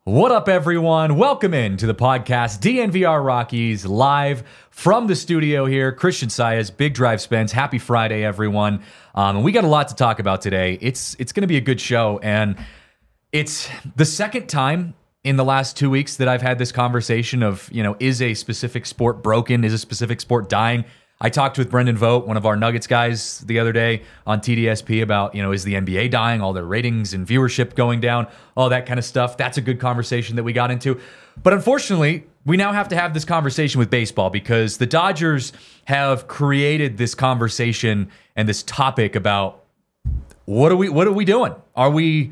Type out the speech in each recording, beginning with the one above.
What up, everyone? Welcome in to the podcast DNVR Rockies live from the studio here. Christian Saez, Big Drive Spence. Happy Friday, everyone. And we got a lot to talk about today. It's going to be a good show, and it's the second time in the last 2 weeks that I've had this conversation of, is a specific sport broken? Is a specific sport dying? I talked with Brendan Vogt, one of our Nuggets guys, the other day on TDSP about, is the NBA dying, all their ratings and viewership going down, all that kind of stuff. That's a good conversation that we got into. But unfortunately, we now have to have this conversation with baseball because the Dodgers have created this conversation and this topic about what are we doing? Are we,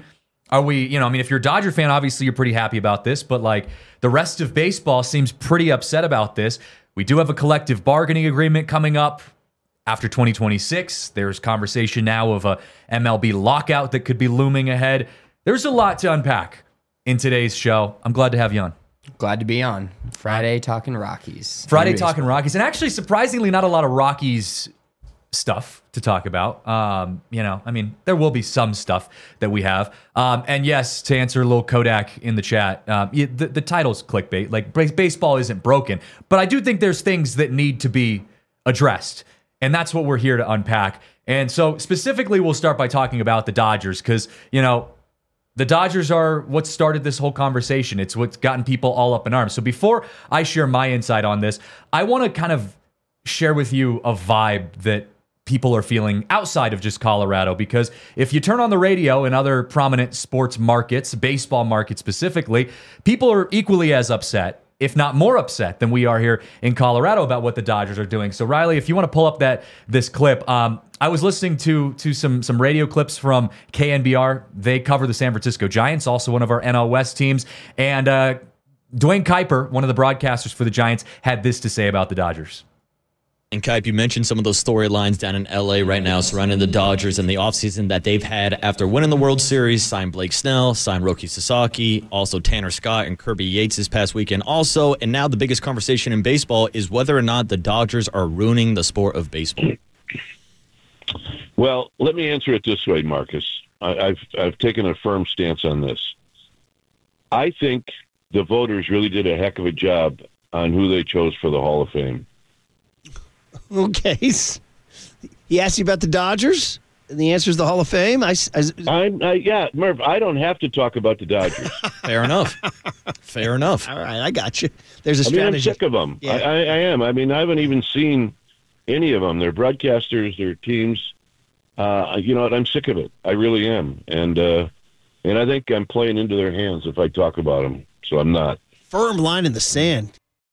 if you're a Dodger fan, obviously you're pretty happy about this, but like the rest of baseball seems pretty upset about this. We do have a collective bargaining agreement coming up after 2026. There's conversation now of a MLB lockout that could be looming ahead. There's a lot to unpack in today's show. I'm glad to have you on. Glad to be on. Friday talking Rockies. Talking Rockies. And actually, surprisingly, not a lot of Rockies stuff to talk about. There will be some stuff that we have. And yes, to answer a little Kodak in the chat, the title's clickbait. Like, baseball isn't broken. But I do think there's things that need to be addressed. And that's what we're here to unpack. And so specifically, we'll start by talking about the Dodgers because, the Dodgers are what started this whole conversation. It's what's gotten people all up in arms. So before I share my insight on this, I want to kind of share with you a vibe that people are feeling outside of just Colorado, because if you turn on the radio in other prominent sports markets, baseball markets specifically, people are equally as upset, if not more upset than we are here in Colorado about what the Dodgers are doing. So Riley, if you want to pull up this clip, I was listening to some radio clips from KNBR. They cover the San Francisco Giants, also one of our NL West teams, and Dwayne Kuiper, one of the broadcasters for the Giants, had this to say about the Dodgers. And Kipe, you mentioned some of those storylines down in LA right now surrounding the Dodgers and the offseason that they've had after winning the World Series, signed Blake Snell, signed Roki Sasaki, also Tanner Scott and Kirby Yates this past weekend also. And now the biggest conversation in baseball is whether or not the Dodgers are ruining the sport of baseball. Well, let me answer it this way, Marcus. I've taken a firm stance on this. I think the voters really did a heck of a job on who they chose for the Hall of Fame. Okay. He asked you about the Dodgers, and the answer is the Hall of Fame. Yeah, Murph, I don't have to talk about the Dodgers. Fair enough. Fair enough. All right, I got you. There's a strategy. I'm sick of them. Yeah. I am. I haven't even seen any of them. They're broadcasters, their teams. You know what? I'm sick of it. I really am. And I think I'm playing into their hands if I talk about them. So I'm not. Firm line in the sand.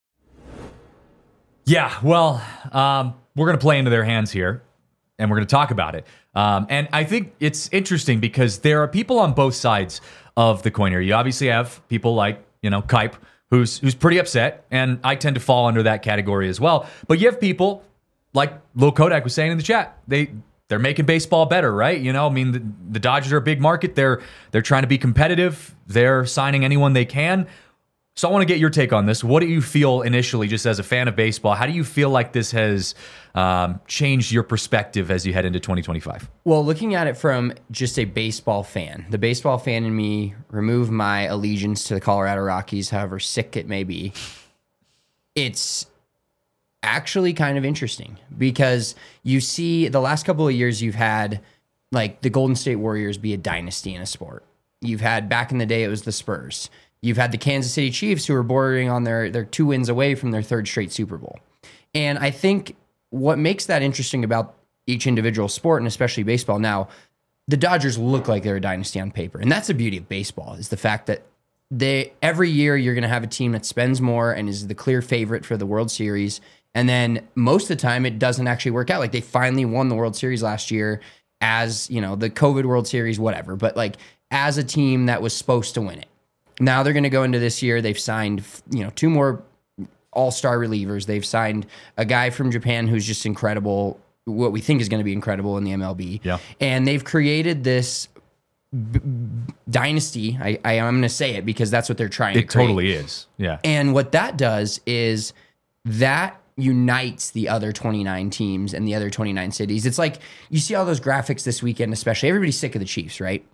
Yeah, well, we're going to play into their hands here, and we're going to talk about it. And I think it's interesting because there are people on both sides of the coin here. You obviously have people like, Kipe, who's pretty upset, and I tend to fall under that category as well. But you have people like Lil Kodak was saying in the chat. They're making baseball better, right? The Dodgers are a big market. They're trying to be competitive. They're signing anyone they can. So I want to get your take on this. What do you feel initially, just as a fan of baseball? How do you feel like this has changed your perspective as you head into 2025? Well, looking at it from just a baseball fan, the baseball fan in me, remove my allegiance to the Colorado Rockies, however sick it may be, it's actually kind of interesting because you see the last couple of years you've had like the Golden State Warriors be a dynasty in a sport. You've had back in the day, it was the Spurs. You've had the Kansas City Chiefs who are bordering on their 2 wins away from their third straight Super Bowl. And I think what makes that interesting about each individual sport, and especially baseball now, the Dodgers look like they're a dynasty on paper. And that's the beauty of baseball, is the fact that every year you're going to have a team that spends more and is the clear favorite for the World Series. And then most of the time it doesn't actually work out. Like they finally won the World Series last year as, the COVID World Series, whatever. But like as a team that was supposed to win it. Now they're going to go into this year. They've signed, 2 more all-star relievers. They've signed a guy from Japan who's just incredible, what we think is going to be incredible in the MLB. Yeah. And they've created this dynasty. I'm going to say it because that's what they're trying to create. It totally is. Yeah. And what that does is that unites the other 29 teams and the other 29 cities. It's like you see all those graphics this weekend, especially. Everybody's sick of the Chiefs, right?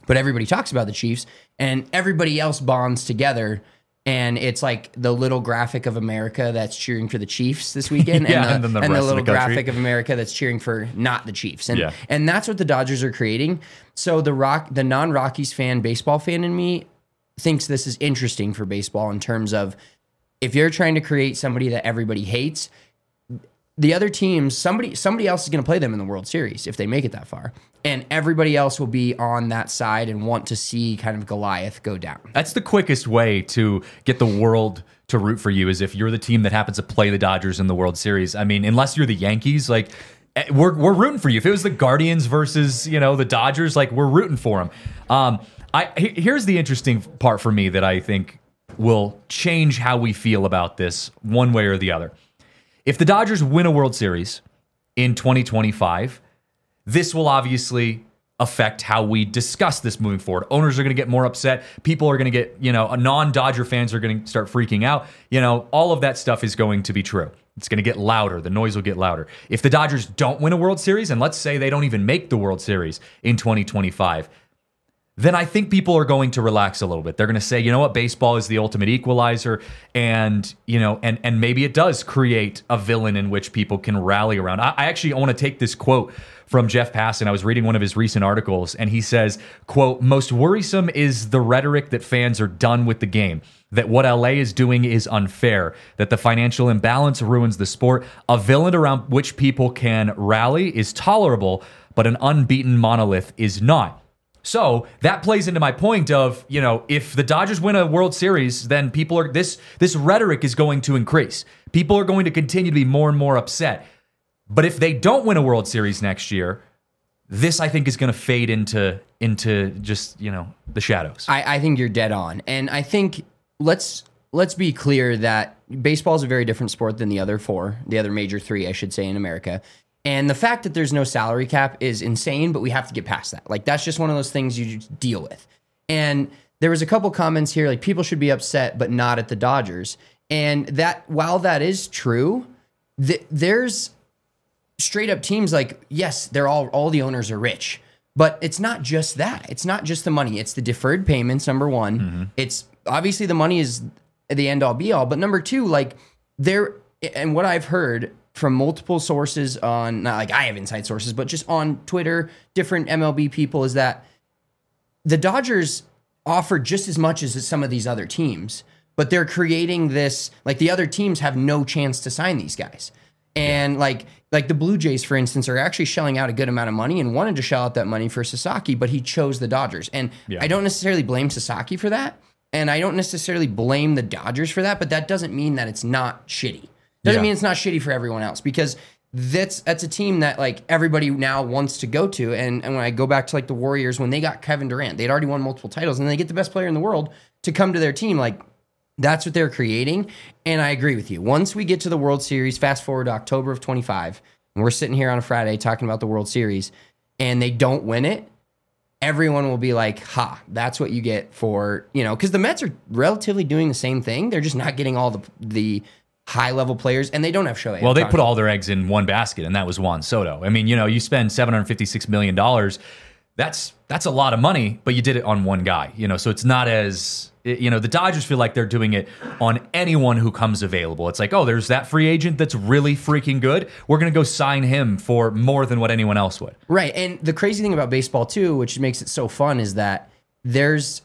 But everybody talks about the Chiefs, and everybody else bonds together. And it's like the little graphic of America that's cheering for the Chiefs this weekend, Yeah, and then the rest of the little country. graphic of America that's cheering for not the Chiefs. And Yeah. and that's what the Dodgers are creating. So the non-Rockies fan, baseball fan in me thinks this is interesting for baseball in terms of if you're trying to create somebody that everybody hates, the other teams, somebody else is going to play them in the World Series if they make it that far. And everybody else will be on that side and want to see kind of Goliath go down. That's the quickest way to get the world to root for you, is if you're the team that happens to play the Dodgers in the World Series. I mean, unless you're the Yankees, like we're rooting for you. If it was the Guardians versus, the Dodgers, like we're rooting for them. Here's the interesting part for me that I think will change how we feel about this one way or the other. If the Dodgers win a World Series in 2025, this will obviously affect how we discuss this moving forward. Owners are going to get more upset. People are going to get, non-Dodger fans are going to start freaking out. All of that stuff is going to be true. It's going to get louder. The noise will get louder. If the Dodgers don't win a World Series, and let's say they don't even make the World Series in 2025, then I think people are going to relax a little bit. They're going to say, you know what, baseball is the ultimate equalizer, and and maybe it does create a villain in which people can rally around. I actually want to take this quote from Jeff Passan. I was reading one of his recent articles, and he says, quote, "Most worrisome is the rhetoric that fans are done with the game, that what LA is doing is unfair, that the financial imbalance ruins the sport. A villain around which people can rally is tolerable, but an unbeaten monolith is not." So that plays into my point of, if the Dodgers win a World Series, then people are this rhetoric is going to increase. People are going to continue to be more and more upset. But if they don't win a World Series next year, this I think is going to fade into just, the shadows. I think you're dead on. And I think let's be clear that baseball is a very different sport than the other major three, I should say, in America. And the fact that there's no salary cap is insane, but we have to get past that. Like, that's just one of those things you just deal with. And there was a couple comments here, like people should be upset, but not at the Dodgers. And that, while that is true, there's straight up teams like, yes, they're all the owners are rich, but it's not just that. It's not just the money. It's the deferred payments, number one. Mm-hmm. It's obviously the money is the end all be all, but number two, like and what I've heard from multiple sources on, not like I have inside sources, but just on Twitter, different MLB people, is that the Dodgers offer just as much as some of these other teams, but they're creating this, like the other teams have no chance to sign these guys. And like the Blue Jays, for instance, are actually shelling out a good amount of money and wanted to shell out that money for Sasaki, but he chose the Dodgers. And I don't necessarily blame Sasaki for that, and I don't necessarily blame the Dodgers for that, but that doesn't mean that it's not shitty. Doesn't mean it's not shitty for everyone else, because that's a team that like everybody now wants to go to. And when I go back to like the Warriors, when they got Kevin Durant, they'd already won multiple titles, and they get the best player in the world to come to their team. Like, that's what they're creating. And I agree with you. Once we get to the World Series, fast forward to October of 25, and we're sitting here on a Friday talking about the World Series, and they don't win it, everyone will be like, ha, that's what you get for, because the Mets are relatively doing the same thing. They're just not getting all the high-level players, and they don't have Shohei. Well, they put all their eggs in one basket, and that was Juan Soto. I mean, you spend $756 million. That's a lot of money, but you did it on one guy. So it's not as, the Dodgers feel like they're doing it on anyone who comes available. It's like, oh, there's that free agent that's really freaking good. We're going to go sign him for more than what anyone else would. Right, and the crazy thing about baseball, too, which makes it so fun, is that there's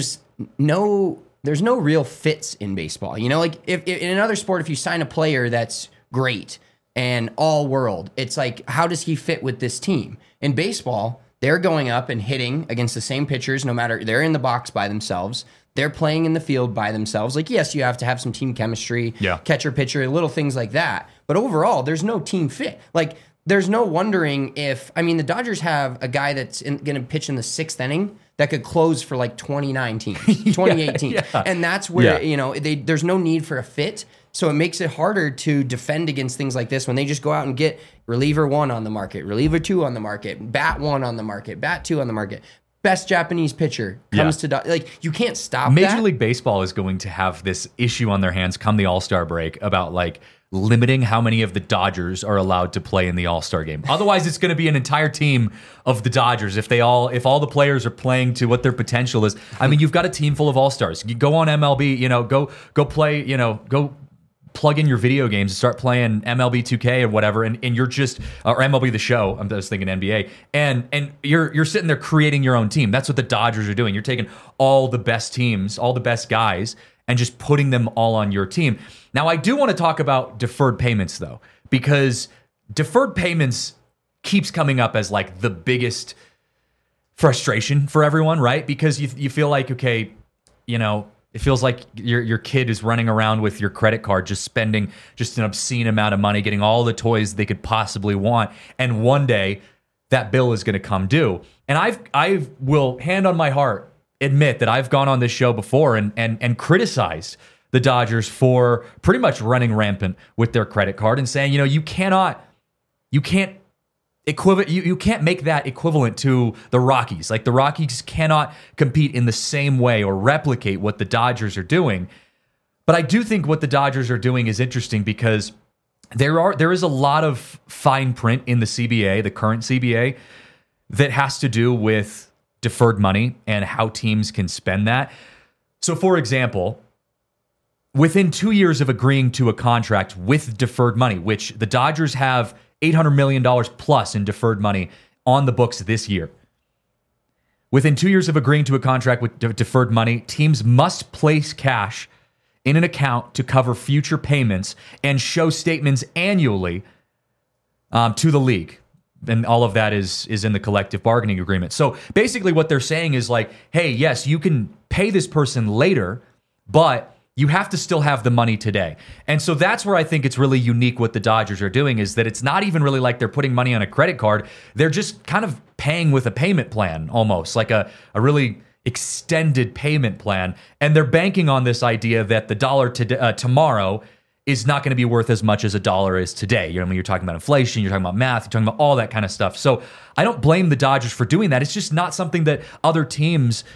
no real fits in baseball. Like if in another sport, if you sign a player that's great and all world, it's like, how does he fit with this team? In baseball, they're going up and hitting against the same pitchers, no matter, they're in the box by themselves. They're playing in the field by themselves. Like, yes, you have to have some team chemistry, catcher, pitcher, little things like that. But overall, there's no team fit. Like, there's no wondering if, the Dodgers have a guy that's going to pitch in the sixth inning that could close for like 28 teams. And that's where, there's no need for a fit. So it makes it harder to defend against things like this when they just go out and get reliever 1 on the market, reliever 2 on the market, bat 1 on the market, bat 2 on the market. Best Japanese pitcher comes to, like, you can't stop Major League Baseball is going to have this issue on their hands come the All-Star break about like limiting how many of the Dodgers are allowed to play in the All-Star game. Otherwise, it's going to be an entire team of the Dodgers if all the players are playing to what their potential is. I mean, you've got a team full of All-Stars. You go on MLB, go play, go plug in your video games and start playing MLB 2K or whatever, and you're just or MLB The Show. I was thinking NBA, and you're sitting there creating your own team. That's what the Dodgers are doing. You're taking all the best teams, all the best guys, and just putting them all on your team. Now, I do want to talk about deferred payments though, because deferred payments keeps coming up as like the biggest frustration for everyone, right? Because you feel like, okay, it feels like your kid is running around with your credit card, just spending just an obscene amount of money, getting all the toys they could possibly want, and one day that bill is going to come due. And I will, hand on my heart, admit that I've gone on this show before and criticized the Dodgers for pretty much running rampant with their credit card and saying, you can't make that equivalent to the Rockies. Like, the Rockies cannot compete in the same way or replicate what the Dodgers are doing. But I do think what the Dodgers are doing is interesting because there is a lot of fine print in the CBA, the current CBA, that has to do with deferred money and how teams can spend that. So, for example, within 2 years of agreeing to a contract with deferred money, which the Dodgers have $800 million plus in deferred money on the books this year. Within 2 years of agreeing to a contract with deferred money, teams must place cash in an account to cover future payments and show statements annually to the league. And all of that is in the collective bargaining agreement. So basically what they're saying is like, hey, yes, you can pay this person later, but you have to still have the money today. And so that's where I think it's really unique what the Dodgers are doing, is that it's not even really like they're putting money on a credit card. They're just kind of paying with a payment plan, almost like a really extended payment plan. And they're banking on this idea that the dollar tomorrow is not going to be worth as much as a dollar is today. When you're talking about inflation, you're talking about math, you're talking about all that kind of stuff. So I don't blame the Dodgers for doing that. It's just not something that other teams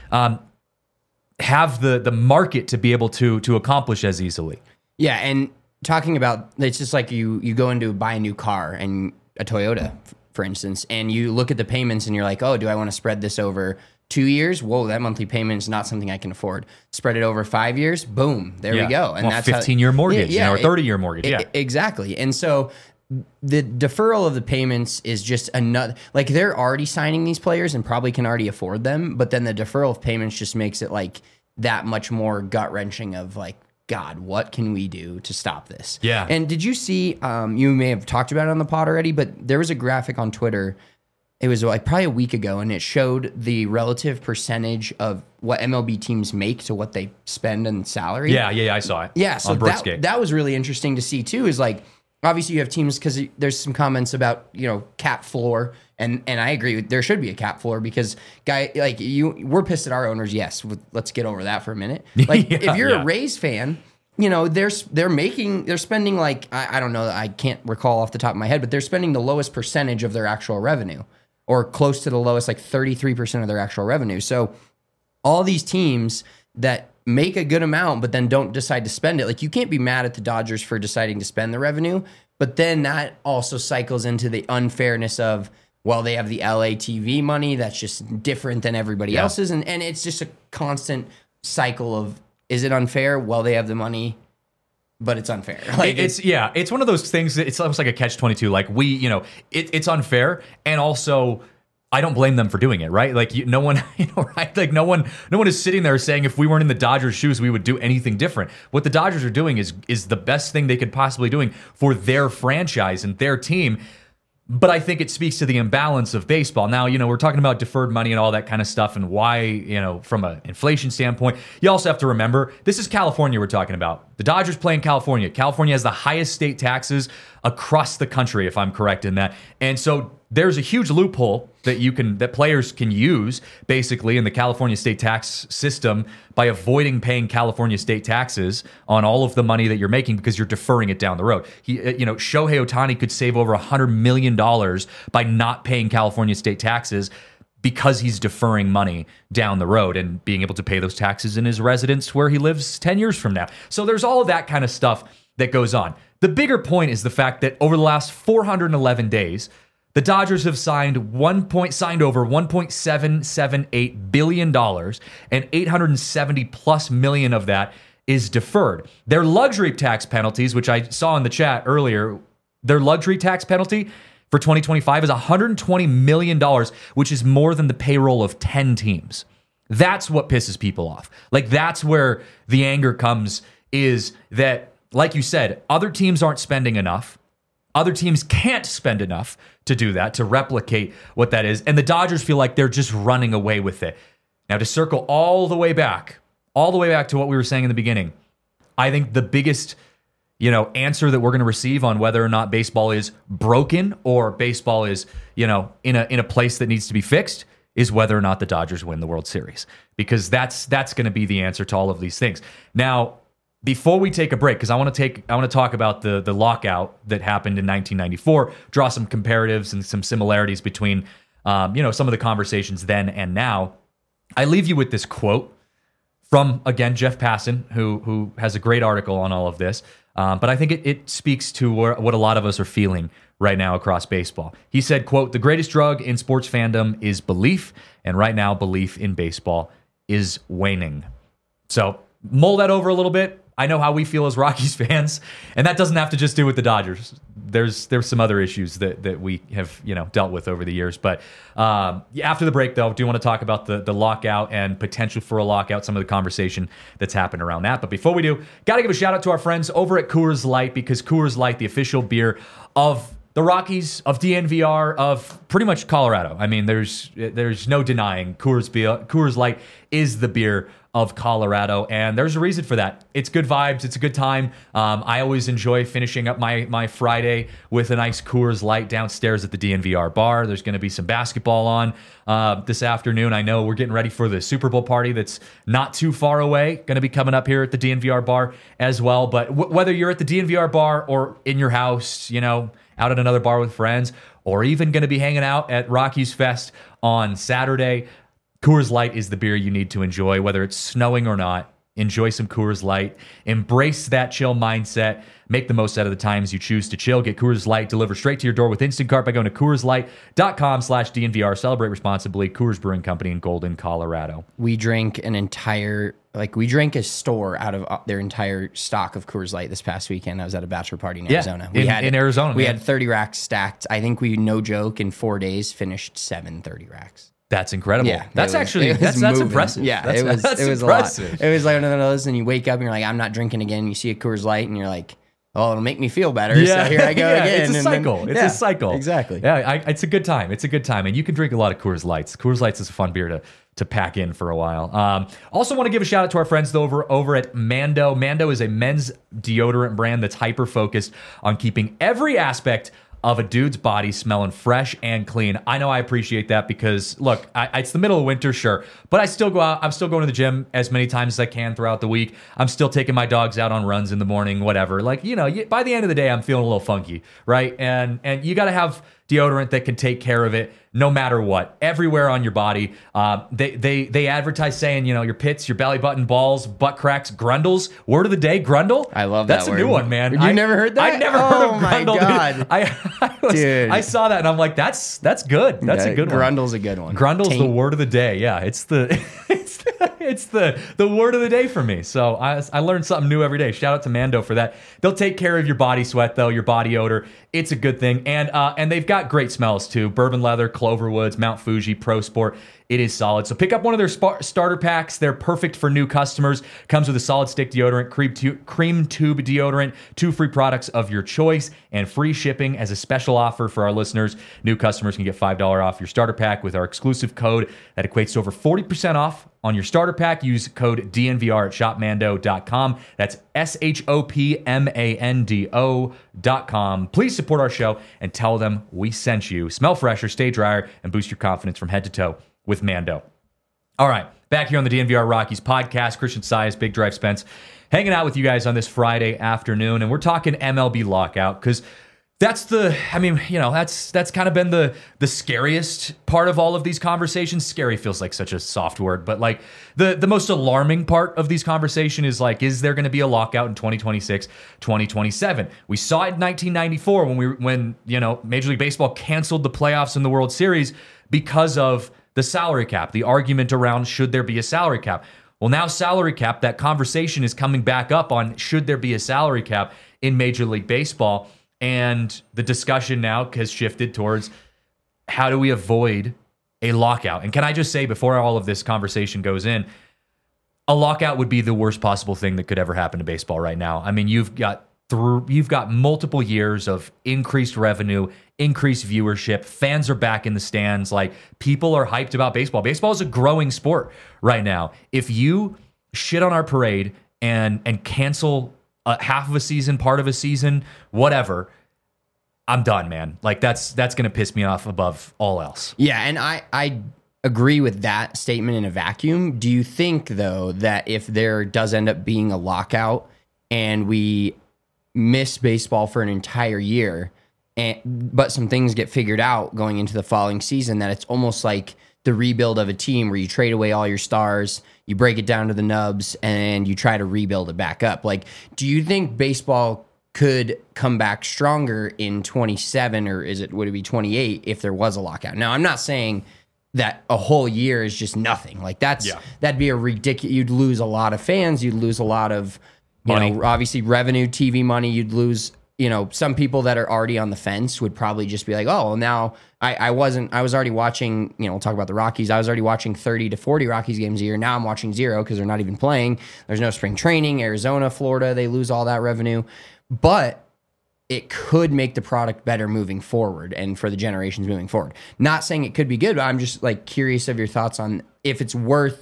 have the market to be able to accomplish as easily. Yeah, and talking about, it's just like you go into buy a new car, and a Toyota, for instance, and you look at the payments and you're like, oh, do I want to spread this over 2 years? Whoa, that monthly payment is not something I can afford. Spread it over 5 years, boom, there we go. And that's 15-year mortgage, or 30-year mortgage. Exactly. And so the deferral of the payments is just another, like, they're already signing these players and probably can already afford them, but then the deferral of payments just makes it like that much more gut-wrenching of like, God, what can we do to stop this? Yeah. And did you see, you may have talked about it on the pod already, but there was a graphic on Twitter, it was like probably a week ago, and it showed the relative percentage of what MLB teams make to what they spend in salary. Yeah, I saw it. Yeah, so on Brooksgate. that was really interesting to see too, is like, obviously you have teams, because there's some comments about, cap floor, and I agree, there should be a cap floor, because we're pissed at our owners, yes, let's get over that for a minute. Like, if you're a Rays fan, they're spending like, I don't know, I can't recall off the top of my head, but they're spending the lowest percentage of their actual revenue, or close to the lowest, like 33% of their actual revenue. So all these teams that make a good amount but then don't decide to spend it, like, you can't be mad at the Dodgers for deciding to spend the revenue, but then that also cycles into the unfairness of, well, they have the LA TV money that's just different than everybody else's, and it's just a constant cycle of, is it unfair? Well, they have the money, but it's unfair. Like, it's one of those things that it's almost like a catch-22. Like, it's unfair, and also I don't blame them for doing it, right? Like, no one, right? Like, no one is sitting there saying if we weren't in the Dodgers' shoes, we would do anything different. What the Dodgers are doing is the best thing they could possibly doing for their franchise and their team. But I think it speaks to the imbalance of baseball. Now, we're talking about deferred money and all that kind of stuff, and why, from an inflation standpoint. You also have to remember, this is California we're talking about. The Dodgers play in California. California has the highest state taxes across the country, if I'm correct in that. And so there's a huge loophole that players can use, basically, in the California state tax system by avoiding paying California state taxes on all of the money that you're making, because you're deferring it down the road. Shohei Ohtani could save over $100 million by not paying California state taxes, because he's deferring money down the road and being able to pay those taxes in his residence where he lives 10 years from now. So there's all of that kind of stuff that goes on. The bigger point is the fact that over the last 411 days, the Dodgers have signed over $1.778 billion, and 870 plus million of that is deferred. Their luxury tax penalties, which I saw in the chat earlier, their luxury tax penalty for 2025 is $120 million, which is more than the payroll of 10 teams. That's what pisses people off. Like, that's where the anger comes, is that, like you said, other teams aren't spending enough. Other teams can't spend enough to do that, to replicate what that is. And the Dodgers feel like they're just running away with it. Now, to circle all the way back to what we were saying in the beginning, I think the biggest, answer that we're going to receive on whether or not baseball is broken or baseball is, in a place that needs to be fixed is whether or not the Dodgers win the World Series, because that's going to be the answer to all of these things. Now, before we take a break, because I want to talk about the lockout that happened in 1994, draw some comparatives and some similarities between, some of the conversations then and now. I leave you with this quote from, again, Jeff Passan, who has a great article on all of this. But I think it speaks to what a lot of us are feeling right now across baseball. He said, quote, "The greatest drug in sports fandom is belief, and right now belief in baseball is waning." So mull that over a little bit. I know how we feel as Rockies fans, and that doesn't have to just do with the Dodgers. There's some other issues that we have dealt with over the years. But after the break, though, I do want to talk about the lockout and potential for a lockout, some of the conversation that's happened around that. But before we do, got to give a shout out to our friends over at Coors Light, because Coors Light, the official beer of the Rockies, of DNVR, of pretty much Colorado. I mean, there's no denying Coors Light is the beer of Colorado, and there's a reason for that. It's good vibes. It's a good time. I always enjoy finishing up my Friday with a nice Coors Light downstairs at the DNVR bar. There's going to be some basketball on this afternoon. I know we're getting ready for the Super Bowl party that's not too far away, going to be coming up here at the DNVR bar as well. But whether you're at the DNVR bar or in your house, out at another bar with friends, or even going to be hanging out at Rockies Fest on Saturday, Coors Light is the beer you need to enjoy, whether it's snowing or not. Enjoy some Coors Light. Embrace that chill mindset. Make the most out of the times you choose to chill. Get Coors Light delivered straight to your door with Instacart by going to CoorsLight.com/DNVR. Celebrate responsibly. Coors Brewing Company in Golden, Colorado. We drank a store out of their entire stock of Coors Light this past weekend. I was at a bachelor party in Arizona. In Arizona. We had 30 racks stacked. I think we, no joke, in 4 days finished 30 racks. That's incredible. Yeah, that's impressive. Yeah, that's it was impressive. a lot. It was like one of those, and you wake up and you're like, I'm not drinking again. You see a Coors Light and you're like, oh, it'll make me feel better. Yeah. So here I go again. It's a cycle. It's a cycle. Exactly. Yeah, it's a good time. It's a good time. And you can drink a lot of Coors Lights. Coors Lights is a fun beer to pack in for a while. Also want to give a shout out to our friends over at Mando. Mando is a men's deodorant brand that's hyper-focused on keeping every aspect of a dude's body smelling fresh and clean. I know I appreciate that because, look, it's the middle of winter, sure, but I still go out. I'm still going to the gym as many times as I can throughout the week. I'm still taking my dogs out on runs in the morning, whatever. Like, by the end of the day, I'm feeling a little funky, right? And you got to have deodorant that can take care of it no matter what, everywhere on your body. They advertise saying, your pits, your belly button, balls, butt cracks, grundles. Word of the day, grundle. I love that. That's a new one, man. You never heard that? I never heard of Oh my grundle. God. Dude. I saw that and I'm like, that's good. That's a good one. Grundle's a good one. Grundle's the word of the day. Yeah, it's the it's the word of the day for me. So I learned something new every day. Shout out to Mando for that. They'll take care of your body sweat though, your body odor. It's a good thing. And they've got great smells too. Bourbon leather, Cloverwoods, Mount Fuji, Pro Sport. It is solid. So pick up one of their starter packs. They're perfect for new customers. Comes with a solid stick deodorant, cream tube deodorant, 2 free products of your choice, and free shipping as a special offer for our listeners. New customers can get $5 off your starter pack with our exclusive code that equates to over 40% off on your starter pack. Use code DNVR at shopmando.com. That's SHOPMANDO.com. Please support our show and tell them we sent you. Smell fresher, stay drier, and boost your confidence from head to toe with Mando. All right, back here on the DNVR Rockies podcast, Christian Sias, Big Drive Spence, hanging out with you guys on this Friday afternoon, and we're talking MLB lockout because That's that's kind of been the scariest part of all of these conversations. Scary feels like such a soft word, but like the most alarming part of these conversations is like, is there going to be a lockout in 2026, 2027? We saw it in 1994 when Major League Baseball canceled the playoffs in the World Series because of the salary cap, the argument around should there be a salary cap. Well, now salary cap, that conversation is coming back up on should there be a salary cap in Major League Baseball. And the discussion now has shifted towards how do we avoid a lockout? And can I just say, before all of this conversation goes in, a lockout would be the worst possible thing that could ever happen to baseball right now. I mean, you've got multiple years of increased revenue, increased viewership. Fans are back in the stands. Like, people are hyped about baseball. Baseball is a growing sport right now. If you shit on our parade and cancel half of a season, part of a season, whatever, I'm done, man. Like, that's going to piss me off above all else. Yeah, and I agree with that statement in a vacuum. Do you think, though, that if there does end up being a lockout and we miss baseball for an entire year, but some things get figured out going into the following season, that it's almost like the rebuild of a team where you trade away all your stars, you break it down to the nubs, and you try to rebuild it back up? Like, do you think baseball could come back stronger in 27, or would it be 28 if there was a lockout? Now, I'm not saying that a whole year is just nothing. Like, that'd be a ridiculous. You'd lose a lot of fans. You'd lose a lot of money. Obviously revenue, TV money. You'd lose. Some people that are already on the fence would probably just be like, oh, now I was already watching, we'll talk about the Rockies. I was already watching 30 to 40 Rockies games a year. Now I'm watching 0 because they're not even playing. There's no spring training. Arizona, Florida, they lose all that revenue. But it could make the product better moving forward and for the generations moving forward. Not saying it could be good, but I'm just like curious of your thoughts on if it's worth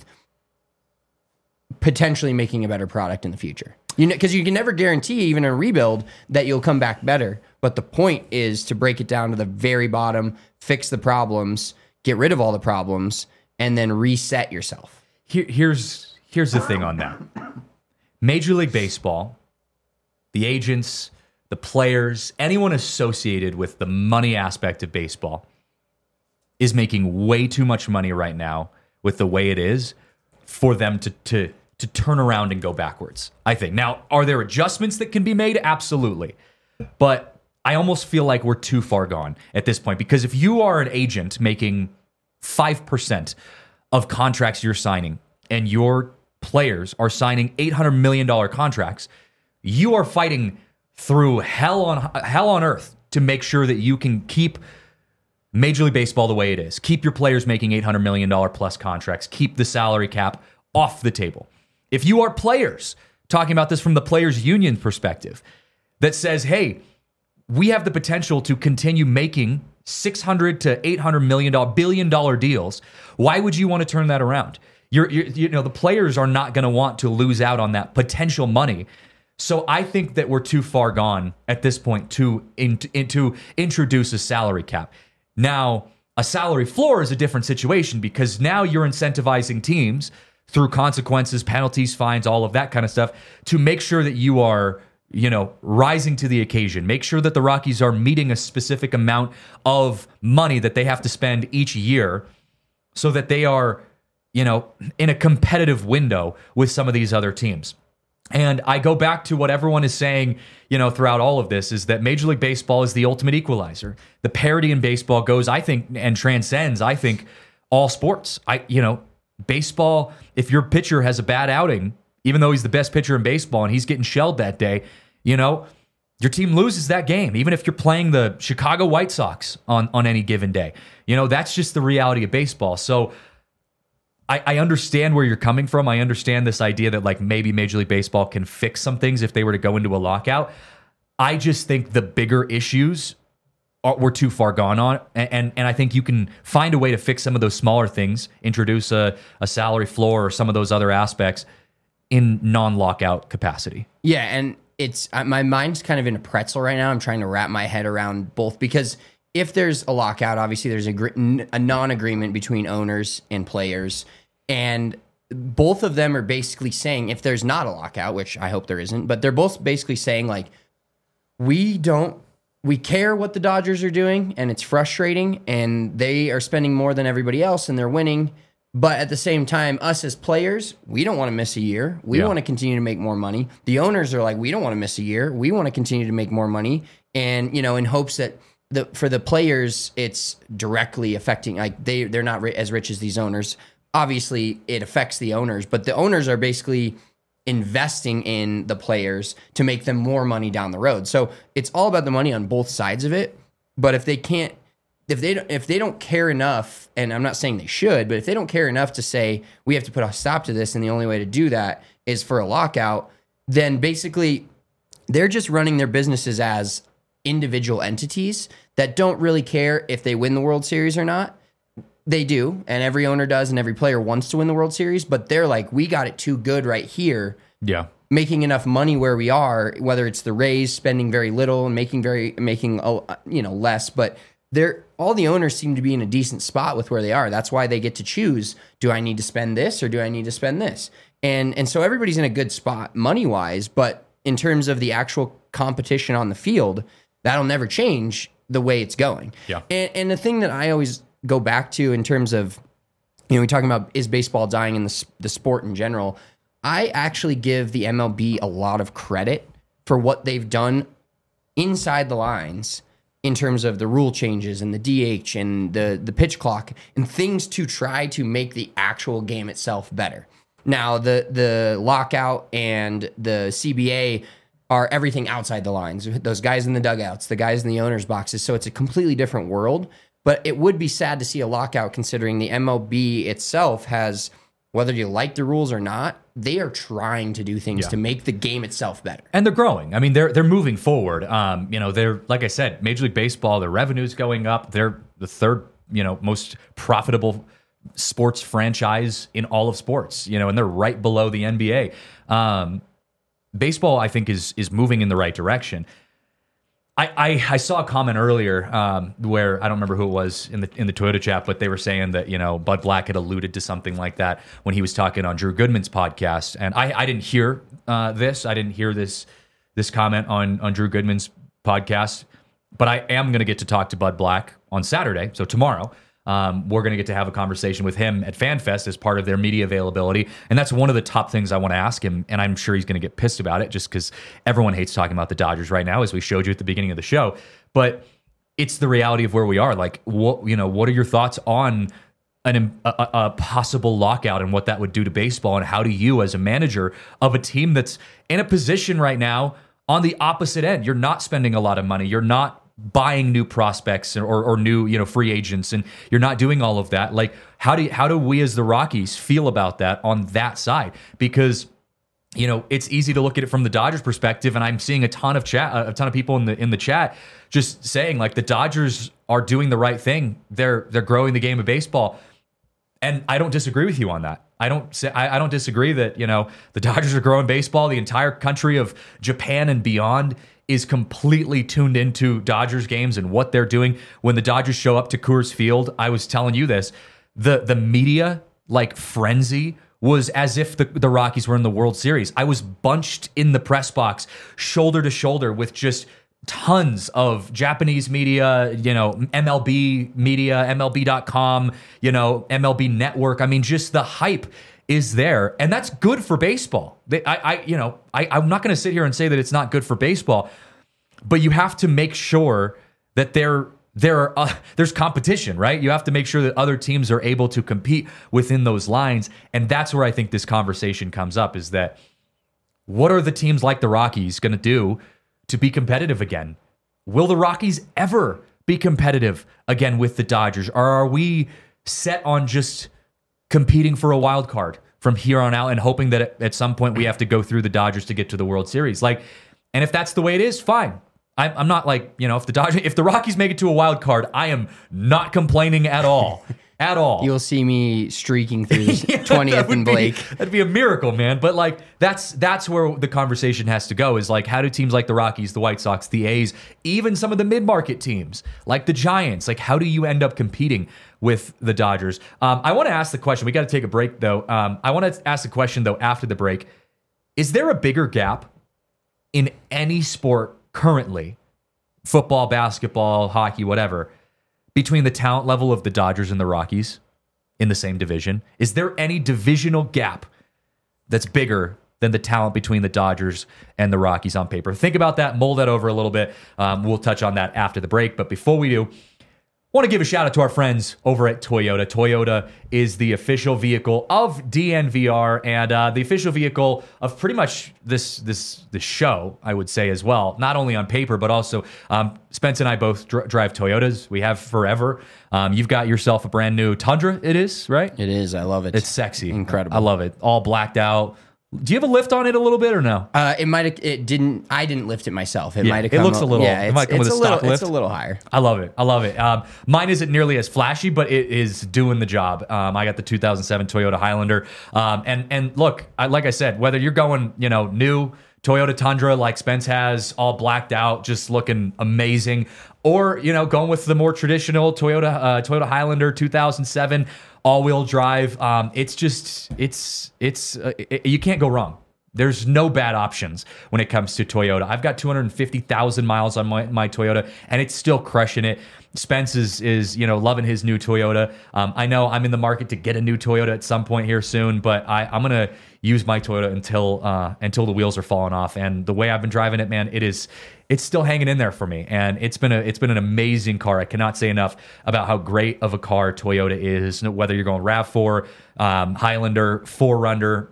potentially making a better product in the future. Because you can never guarantee, even a rebuild, that you'll come back better. But the point is to break it down to the very bottom, fix the problems, get rid of all the problems, and then reset yourself. Here's the thing on that. Major League Baseball, the agents, the players, anyone associated with the money aspect of baseball is making way too much money right now with the way it is for them to turn around and go backwards, I think. Now, are there adjustments that can be made? Absolutely. But I almost feel like we're too far gone at this point, because if you are an agent making 5% of contracts you're signing and your players are signing $800 million contracts, you are fighting through hell on earth to make sure that you can keep Major League Baseball the way it is. Keep your players making $800 million plus contracts. Keep the salary cap off the table. If you are players, talking about this from the players' union perspective, that says, hey, we have the potential to continue making $600 to $800 billion deals, why would you want to turn that around? The players are not going to want to lose out on that potential money. So I think that we're too far gone at this point to introduce a salary cap. Now, a salary floor is a different situation, because now you're incentivizing teams through consequences, penalties, fines, all of that kind of stuff, to make sure that you are, rising to the occasion. Make sure that the Rockies are meeting a specific amount of money that they have to spend each year so that they are, in a competitive window with some of these other teams. And I go back to what everyone is saying, throughout all of this, is that Major League Baseball is the ultimate equalizer. The parity in baseball goes, I think, and transcends, I think, all sports. Baseball, if your pitcher has a bad outing, even though he's the best pitcher in baseball and he's getting shelled that day, your team loses that game, even if you're playing the Chicago White Sox on any given day. That's just the reality of baseball. So I understand where you're coming from. I understand this idea that like maybe Major League Baseball can fix some things if they were to go into a lockout. I just think the bigger issues we're too far gone on, and I think you can find a way to fix some of those smaller things, introduce a salary floor or some of those other aspects in non-lockout capacity. Yeah, and it's my mind's kind of in a pretzel right now. I'm trying to wrap my head around both, because if there's a lockout, obviously there's a non-agreement between owners and players, and both of them are basically saying, if there's not a lockout, which I hope there isn't, but they're both basically saying like, we don't we care what the Dodgers are doing, and it's frustrating, and they are spending more than everybody else, and they're winning. But at the same time, us as players, we don't want to miss a year. We want to continue to make more money. The owners are like, we don't want to miss a year. We want to continue to make more money. And, in hopes that for the players, it's directly affecting, like they're not as rich as these owners. Obviously, it affects the owners, but the owners are basically investing in the players to make them more money down the road. So it's all about the money on both sides of it. But if they don't care enough, and I'm not saying they should, but if they don't care enough to say we have to put a stop to this, and the only way to do that is for a lockout, then basically they're just running their businesses as individual entities that don't really care if they win the World Series or not. They do, and every owner does, and every player wants to win the World Series, but they're like, we got it too good right here. Yeah. Making enough money where we are, whether it's the Rays spending very little and making less, but all the owners seem to be in a decent spot with where they are. That's why they get to choose, do I need to spend this or do I need to spend this? And so everybody's in a good spot money-wise, but in terms of the actual competition on the field, that'll never change the way it's going. Yeah. And the thing that I always go back to in terms of, we're talking about is baseball dying in the sport in general, I actually give the MLB a lot of credit for what they've done inside the lines in terms of the rule changes and the DH and the pitch clock and things to try to make the actual game itself better. Now, the lockout and the CBA are everything outside the lines. Those guys in the dugouts, the guys in the owners' boxes. So it's a completely different world. But it would be sad to see a lockout considering the MLB itself has, whether you like the rules or not, they are trying to do things to make the game itself better. And they're growing. I mean, they're moving forward. They're, like I said, Major League Baseball, their revenue's going up. They're the third, most profitable sports franchise in all of sports, and they're right below the NBA. Baseball, I think, is moving in the right direction. I saw a comment earlier where I don't remember who it was in the Toyota chat, but they were saying that Bud Black had alluded to something like that when he was talking on Drew Goodman's podcast, and I didn't hear this. I didn't hear this comment on Drew Goodman's podcast, but I am going to get to talk to Bud Black on Saturday, so tomorrow. We're going to get to have a conversation with him at FanFest as part of their media availability. And that's one of the top things I want to ask him. And I'm sure he's going to get pissed about it just because everyone hates talking about the Dodgers right now, as we showed you at the beginning of the show. But it's the reality of where we are. Like, what are your thoughts on a possible lockout and what that would do to baseball? And how do you, as a manager of a team that's in a position right now on the opposite end, you're not spending a lot of money, you're not buying new prospects or new free agents, and you're not doing all of that. Like, how do we as the Rockies feel about that on that side? Because it's easy to look at it from the Dodgers perspective, and I'm seeing a ton of people in the chat just saying like the Dodgers are doing the right thing. They're growing the game of baseball, and I don't disagree with you on that. I don't disagree that the Dodgers are growing baseball. The entire country of Japan and beyond is completely tuned into Dodgers games and what they're doing. When the Dodgers show up to Coors Field, I was telling you this, the media frenzy was as if the Rockies were in the World Series. I was bunched in the press box, shoulder to shoulder with just tons of Japanese media, MLB media, MLB.com, MLB Network. I mean, just the hype is there, and that's good for baseball. I'm not going to sit here and say that it's not good for baseball, but you have to make sure that there's competition, right? You have to make sure that other teams are able to compete within those lines, and that's where I think this conversation comes up, is that what are the teams like the Rockies going to do to be competitive again? Will the Rockies ever be competitive again with the Dodgers, or are we set on just competing for a wild card from here on out and hoping that at some point we have to go through the Dodgers to get to the World Series? And if that's the way it is, fine. I'm not if the Rockies make it to a wild card, I am not complaining at all. At all. You'll see me streaking through 20th and Blake. That'd be a miracle, man. But that's where the conversation has to go, is how do teams like the Rockies, the White Sox, the A's, even some of the mid-market teams like the Giants, how do you end up competing with the Dodgers? I want to ask the question. We got to take a break, though. I want to ask the question, though, after the break. Is there a bigger gap in any sport currently football, basketball, hockey, whatever, between the talent level of the Dodgers and the Rockies in the same division? Is there any divisional gap that's bigger than the talent between the Dodgers and the Rockies on paper? Think about that, mull that over a little bit. We'll touch on that after the break. But before we do, I want to give a shout out to our friends over at Toyota. Toyota is the official vehicle of DNVR and the official vehicle of pretty much this show, I would say, as well. Not only on paper, but also Spence and I both drive Toyotas. We have forever. You've got yourself a brand new Tundra, it is, right? It is. I love it. It's sexy. Incredible. I love it. All blacked out. Do you have a lift on it a little bit or no? It might have. It didn't. I didn't lift it myself. It might have. It looks a little. Yeah, it might come with a stock lift. It's a little higher. I love it. I love it. Mine isn't nearly as flashy, but it is doing the job. I got the 2007 Toyota Highlander. And look, like I said, whether you're going, new Toyota Tundra like Spence has, all blacked out, just looking amazing, or going with the more traditional Toyota Highlander 2007 all-wheel drive. You can't go wrong. There's no bad options when it comes to Toyota. I've got 250,000 miles on my Toyota, and it's still crushing it. Spence is loving his new Toyota. I know I'm in the market to get a new Toyota at some point here soon, but I'm gonna use my Toyota until the wheels are falling off. And the way I've been driving it, man, it's still hanging in there for me. And it's been an amazing car. I cannot say enough about how great of a car Toyota is. Whether you're going RAV4, Highlander, 4Runner,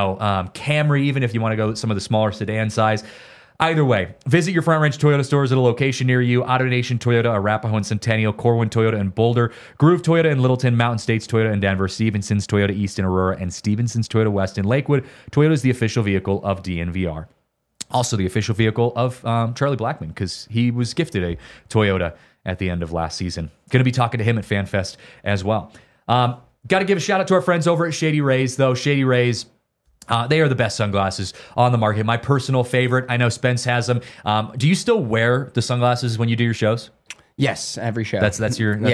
Camry, even if you want to go some of the smaller sedan size. Either way, visit your Front Range Toyota stores at a location near you. AutoNation Toyota, Arapahoe and Centennial, Corwin Toyota in Boulder, Groove Toyota in Littleton, Mountain States Toyota in Denver, Stevenson's Toyota East in Aurora, and Stevenson's Toyota West in Lakewood. Toyota is the official vehicle of DNVR. Also the official vehicle of Charlie Blackmon, because he was gifted a Toyota at the end of last season. Going to be talking to him at FanFest as well. Got to give a shout out to our friends over at Shady Rays, though. Shady Rays, they are the best sunglasses on the market. My personal favorite. I know Spence has them. Do you still wear the sunglasses when you do your shows? Yes, every show. It's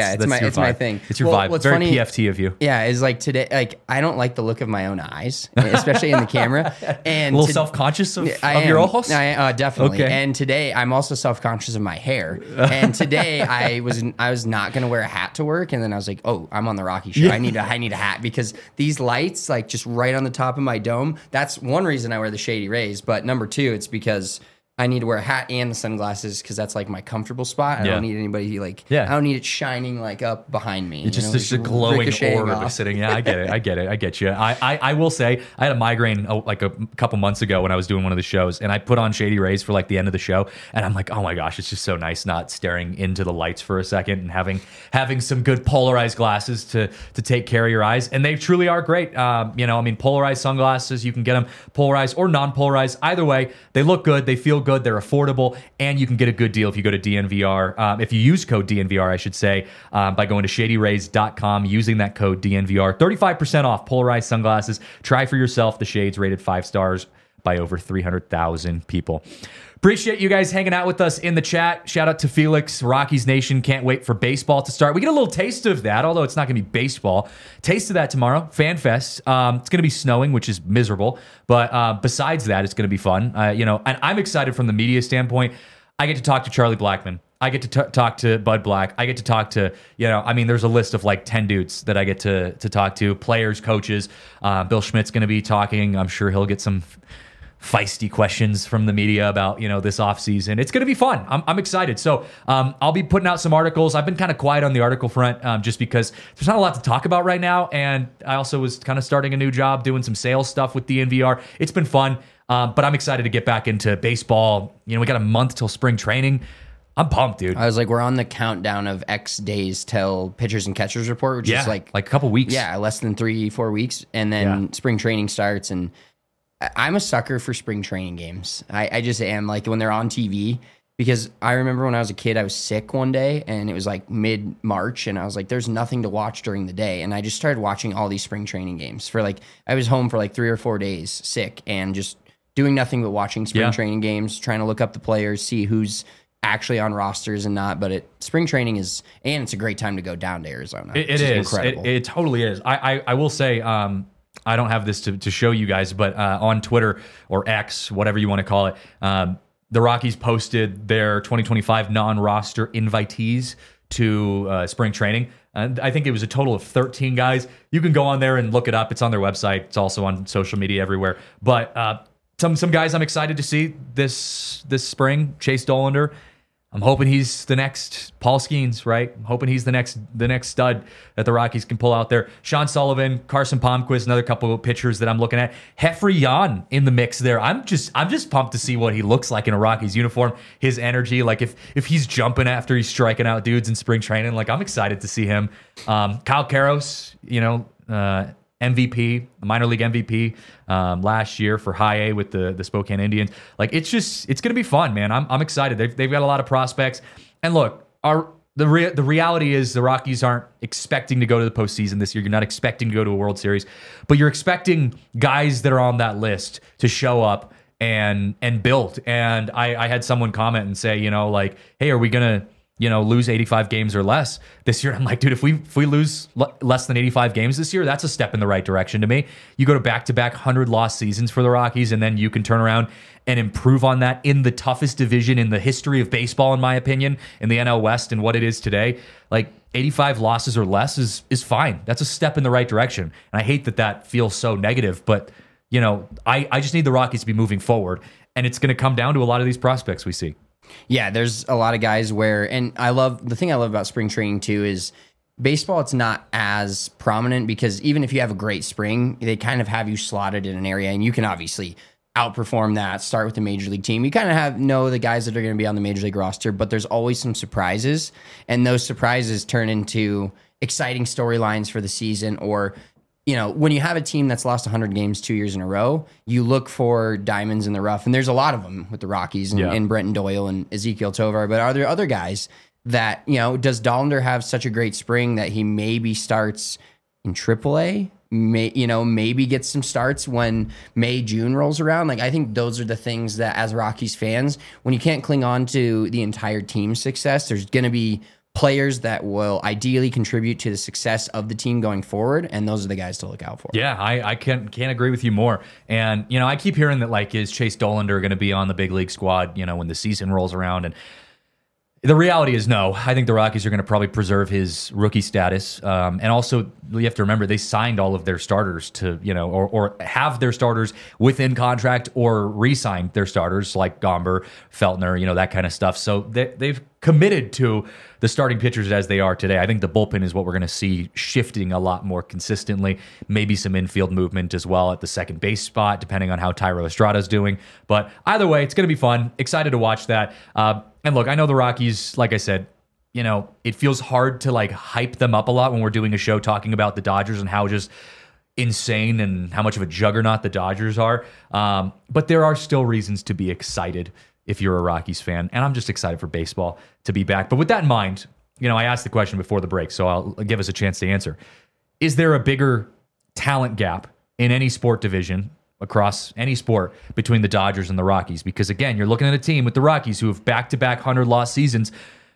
my thing. It's your vibe. What's very funny, PFT of you. Yeah, is like today. Like I don't like the look of my own eyes, especially in the camera. And a little self-conscious of your ojos. Definitely. Okay. And today I'm also self-conscious of my hair. And today I was not going to wear a hat to work, and then I was like, oh, I'm on the Rocky show. Yeah. I need a hat because these lights, like just right on the top of my dome. That's one reason I wear the Shady Rays. But number two, it's because I need to wear a hat and the sunglasses because that's like my comfortable spot. I don't need anybody I don't need it shining like up behind me. It's just a glowing orb sitting. Yeah, I get it. I get you. I will say I had a migraine like a couple months ago when I was doing one of the shows, and I put on Shady Rays for like the end of the show, and I'm like, oh my gosh, it's just so nice not staring into the lights for a second and having some good polarized glasses to take care of your eyes, and they truly are great. Polarized sunglasses, you can get them polarized or non-polarized. Either way, they look good, they feel good, they're affordable, and you can get a good deal if you go to DNVR. If you use code DNVR, I should say, by going to shadyrays.com, using that code DNVR, 35% off polarized sunglasses. Try for yourself the shades rated 5 stars by over 300,000 people. Appreciate you guys hanging out with us in the chat. Shout out to Felix, Rockies Nation. Can't wait for baseball to start. We get a little taste of that, although it's not going to be baseball. Taste of that tomorrow, FanFest. It's going to be snowing, which is miserable. But besides that, it's going to be fun. And I'm excited from the media standpoint. I get to talk to Charlie Blackmon. I get to talk to Bud Black. I get to talk to, there's a list of like 10 dudes that I get to talk to, players, coaches. Bill Schmidt's going to be talking. I'm sure he'll get some feisty questions from the media about this offseason. It's going to be fun. I'm excited. So I'll be putting out some articles. I've been kind of quiet on the article front just because there's not a lot to talk about right now, and I also was kind of starting a new job doing some sales stuff with DNVR. It's been fun, but I'm excited to get back into baseball. We got a month till spring training. I'm pumped, dude. I was like, we're on the countdown of X days till pitchers and catchers report, which is like a couple weeks. Yeah, less than 3-4 weeks, and then spring training starts. And I'm a sucker for spring training games. I just am, like when they're on TV, because I remember when I was a kid, I was sick one day, and it was like mid-March, and I was like, there's nothing to watch during the day. And I just started watching all these spring training games I was home for like 3 or 4 days sick and just doing nothing but watching spring training games, trying to look up the players, see who's actually on rosters and not. But spring training is, and it's a great time to go down to Arizona. It is incredible. It totally is. I will say, I don't have this to show you guys, but on Twitter or X, whatever you want to call it, the Rockies posted their 2025 non-roster invitees to spring training. And I think it was a total of 13 guys. You can go on there and look it up. It's on their website. It's also on social media everywhere. But some guys I'm excited to see this spring. Chase Dollander. I'm hoping he's the next Paul Skeens, right? I'm hoping he's the next stud that the Rockies can pull out there. Sean Sullivan, Carson Palmquist, another couple of pitchers that I'm looking at. Jeffrey Yan in the mix there. I'm just pumped to see what he looks like in a Rockies uniform. His energy, like if he's jumping after he's striking out dudes in spring training, like I'm excited to see him. Kyle Karros, MVP, minor league MVP last year for High A with the Spokane Indians. Like it's going to be fun, man. I'm excited. They've got a lot of prospects. And look, the reality is the Rockies aren't expecting to go to the postseason this year. You're not expecting to go to a World Series, but you're expecting guys that are on that list to show up and build. And I had someone comment and say, hey, are we gonna lose 85 games or less this year? I'm like, dude, if we lose less than 85 games this year, that's a step in the right direction to me. You go to back-to-back 100-loss seasons for the Rockies, and then you can turn around and improve on that in the toughest division in the history of baseball, in my opinion, in the NL West and what it is today. Like 85 losses or less is fine. That's a step in the right direction. And I hate that feels so negative, but I just need the Rockies to be moving forward, and it's going to come down to a lot of these prospects we see. Yeah, there's a lot of guys and the thing I love about spring training too is baseball, it's not as prominent because even if you have a great spring, they kind of have you slotted in an area and you can obviously outperform that, start with the major league team. You kind of know the guys that are going to be on the major league roster, but there's always some surprises, and those surprises turn into exciting storylines for the season. Or when you have a team that's lost 100 games 2 years in a row, you look for diamonds in the rough. And there's a lot of them with the Rockies and Brenton Doyle and Ezekiel Tovar. But are there other guys that, does Dollander have such a great spring that he maybe starts in AAA? Maybe gets some starts when May, June rolls around. Like, I think those are the things that as Rockies fans, when you can't cling on to the entire team's success, there's going to be players that will ideally contribute to the success of the team going forward, and those are the guys to look out for. Yeah, I can't agree with you more. And I keep hearing that is Chase Dollander going to be on the big league squad when the season rolls around? And the reality is no. I think the Rockies are going to probably preserve his rookie status, and also you have to remember they signed all of their starters to or have their starters within contract or re-signed their starters like Gomber, Feltner, that kind of stuff. So they've committed to the starting pitchers as they are today. I think the bullpen is what we're going to see shifting a lot more consistently. Maybe some infield movement as well at the second base spot, depending on how Thairo Estrada's doing. But either way, it's going to be fun. Excited to watch that. And look, I know the Rockies, like I said, it feels hard to hype them up a lot when we're doing a show talking about the Dodgers and how just insane and how much of a juggernaut the Dodgers are. But there are still reasons to be excited if you're a Rockies fan. And I'm just excited for baseball to be back. But with that in mind, I asked the question before the break, so I'll give us a chance to answer. Is there a bigger talent gap in any sport division across any sport between the Dodgers and the Rockies? Because again, you're looking at a team with the Rockies who have back-to-back 100-loss seasons.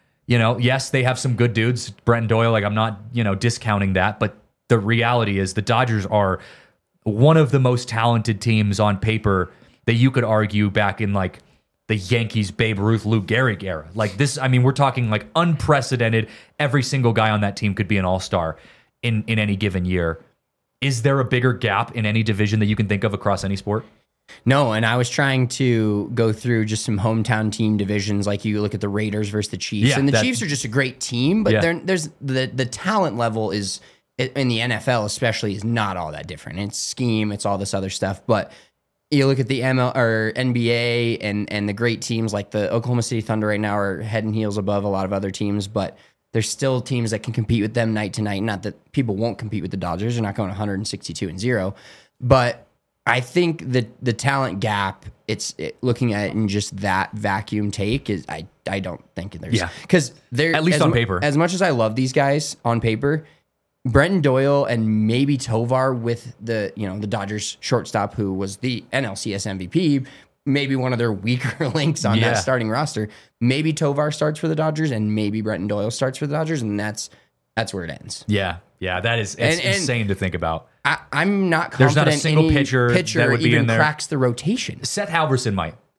Yes, they have some good dudes. Brenton Doyle, I'm not, discounting that, but the reality is the Dodgers are one of the most talented teams on paper that you could argue back in the Yankees, Babe Ruth, Lou Gehrig era. We're talking unprecedented. Every single guy on that team could be an all-star in any given year. Is there a bigger gap in any division that you can think of across any sport? No, and I was trying to go through just some hometown team divisions. Like you look at the Raiders versus the Chiefs, and the Chiefs are just a great team, but there's the talent level is in the NFL especially is not all that different. It's scheme, it's all this other stuff, but you look at the ML or NBA and the great teams like the Oklahoma City Thunder right now are head and heels above a lot of other teams, but there's still teams that can compete with them night to night. Not that people won't compete with the Dodgers. They're not going 162-0. But I think that the talent gap, looking at it in just that vacuum take, is I don't think there's... Because they're... At least on paper. As much as I love these guys on paper, Brenton Doyle and maybe Tovar with the Dodgers shortstop who was the NLCS MVP, maybe one of their weaker links on that starting roster. Maybe Tovar starts for the Dodgers and maybe Brenton Doyle starts for the Dodgers, and that's where it ends. Yeah, that is insane to think about. I'm not confident there's not a single pitcher that would be even in there. Cracks the rotation. Seth Halverson might.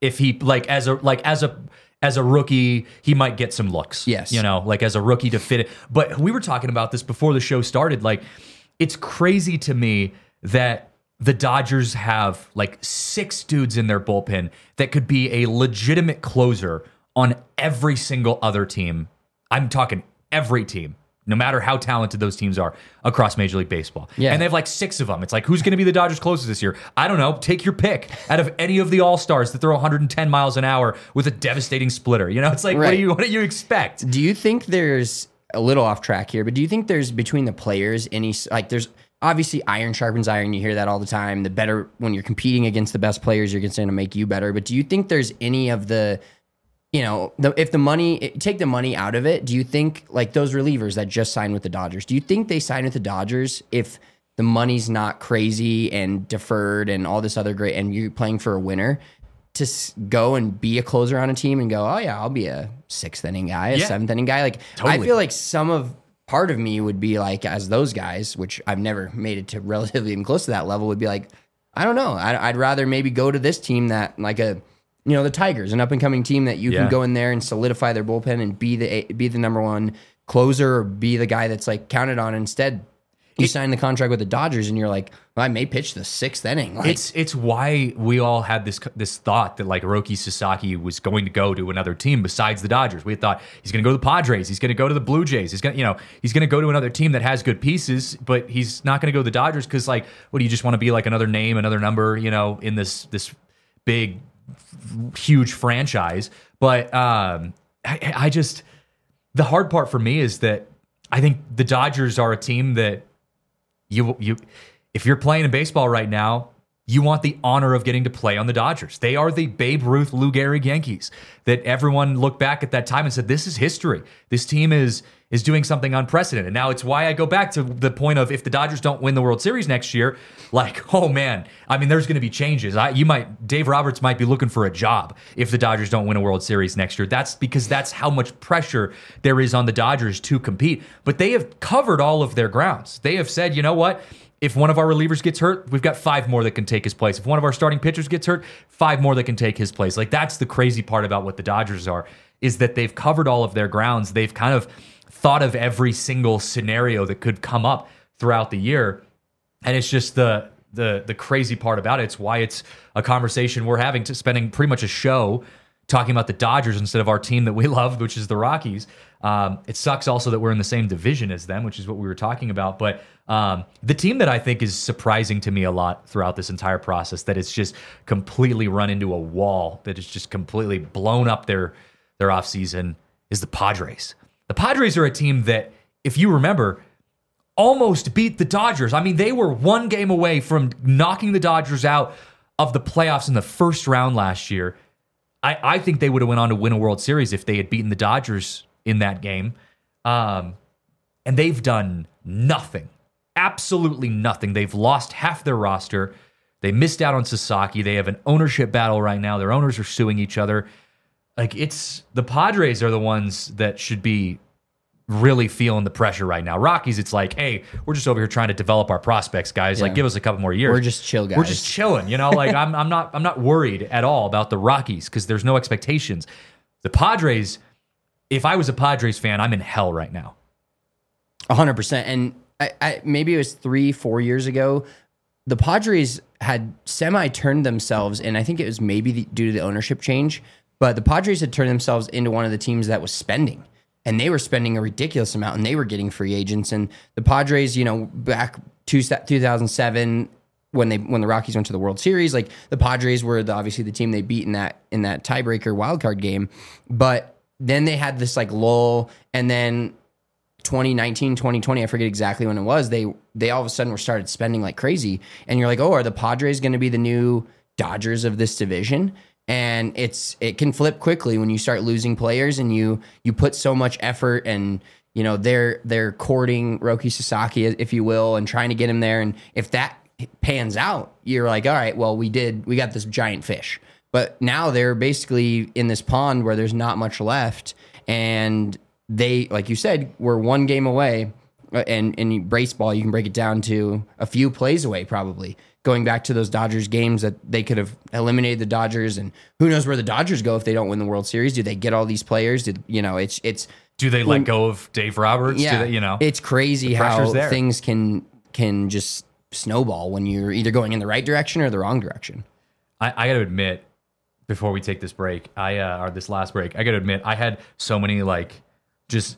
if he as a rookie, he might get some looks. Yes. As a rookie to fit it. But we were talking about this before the show started. Like, it's crazy to me that the Dodgers have 6 dudes in their bullpen that could be a legitimate closer on every single other team. I'm talking every team, no matter how talented those teams are across Major League Baseball. Yeah. And they have 6 of them. It's like, who's going to be the Dodgers closest this year? I don't know. Take your pick out of any of the All-Stars that throw 110 miles an hour with a devastating splitter. It's like, right. What do you expect? Do you think there's a little off track here, but do you think there's between the players there's obviously iron sharpens iron. You hear that all the time. The better, when you're competing against the best players, you're going to make you better. But do you think there's any of the, if the money, take the money out of it, do you think those relievers that just signed with the Dodgers, do you think they sign with the Dodgers if the money's not crazy and deferred and all this other great, and you're playing for a winner, to go and be a closer on a team and go, oh yeah, I'll be a 6th inning guy, a 7th inning guy? Totally. I feel like part of me would be as those guys, which I've never made it to relatively even close to that level, would be I don't know. I'd rather maybe go to this team that the Tigers, an up and coming team that you can go in there and solidify their bullpen and be the number one closer, or be the guy that's counted on. Instead, you sign the contract with the Dodgers and you're well, I may pitch the 6th inning. It's why we all had this thought that Roki Sasaki was going to go to another team besides the Dodgers. We thought he's going to go to the Padres, he's going to go to the Blue Jays, he's going to go to another team that has good pieces, but he's not going to go to the Dodgers because what do you just want to be another name, another number, in this big, huge franchise? But I just, the hard part for me is that I think the Dodgers are a team that if you're playing in baseball right now, you want the honor of getting to play on the Dodgers. They are the Babe Ruth, Lou Gehrig Yankees that everyone looked back at that time and said, this is history. This team is doing something unprecedented. Now, it's why I go back to the point of, if the Dodgers don't win the World Series next year, oh man, there's going to be changes. Dave Roberts might be looking for a job if the Dodgers don't win a World Series next year. That's because that's how much pressure there is on the Dodgers to compete. But they have covered all of their grounds. They have said, you know what? If one of our relievers gets hurt, we've got 5 more that can take his place. If one of our starting pitchers gets hurt, 5 more that can take his place. That's the crazy part about what the Dodgers are, is that they've covered all of their grounds. They've kind of thought of every single scenario that could come up throughout the year. And it's just the crazy part about it. It's why it's a conversation we're having, spending pretty much a show talking about the Dodgers instead of our team that we love, which is the Rockies. It sucks also that we're in the same division as them, which is what we were talking about. But the team that I think is surprising to me a lot throughout this entire process, that it's just completely run into a wall, that it's just completely blown up their offseason, is the Padres. The Padres are a team that, if you remember, almost beat the Dodgers. They were 1 game away from knocking the Dodgers out of the playoffs in the first round last year. I think they would have went on to win a World Series if they had beaten the Dodgers in that game. And they've done nothing. Absolutely nothing. They've lost half their roster. They missed out on Sasaki. They have an ownership battle right now. Their owners are suing each other. The Padres are the ones that should be really feeling the pressure right now. Rockies, it's hey, we're just over here trying to develop our prospects, guys. Yeah. Give us a couple more years. We're just chill guys. We're just chilling, I'm not worried at all about the Rockies because there's no expectations. The Padres, if I was a Padres fan, I'm in hell right now. 100%. And I maybe it was 3-4 years ago, the Padres had semi-turned themselves, and I think it was maybe due to the ownership change, but the Padres had turned themselves into one of the teams that was spending. And they were spending a ridiculous amount, and they were getting free agents. And the Padres, back 2007, when the Rockies went to the World Series, the Padres were obviously the team they beat in that tiebreaker wildcard game. But then they had this lull, and then 2019, 2020, I forget exactly when it was, they all of a sudden were started spending like crazy. And you're oh, are the Padres going to be the new Dodgers of this division? And it can flip quickly when you start losing players and you put so much effort and they're courting Roki Sasaki, if you will, and trying to get him there. And if that pans out, you're all right, well, we got this giant fish. But now they're basically in this pond where there's not much left, and they, like you said, were 1 game away. And in baseball, you can break it down to a few plays away, probably. going back to those Dodgers games that they could have eliminated the Dodgers, and who knows where the Dodgers go if they don't win the World Series? Do they get all these players? It's Do they let go of Dave Roberts? yeah, Do they, it's crazy how pressure's there. things can just snowball when you're either going in the right direction or the wrong direction. I got to admit, before we take this break, or this last break, I got to admit, I had so many like just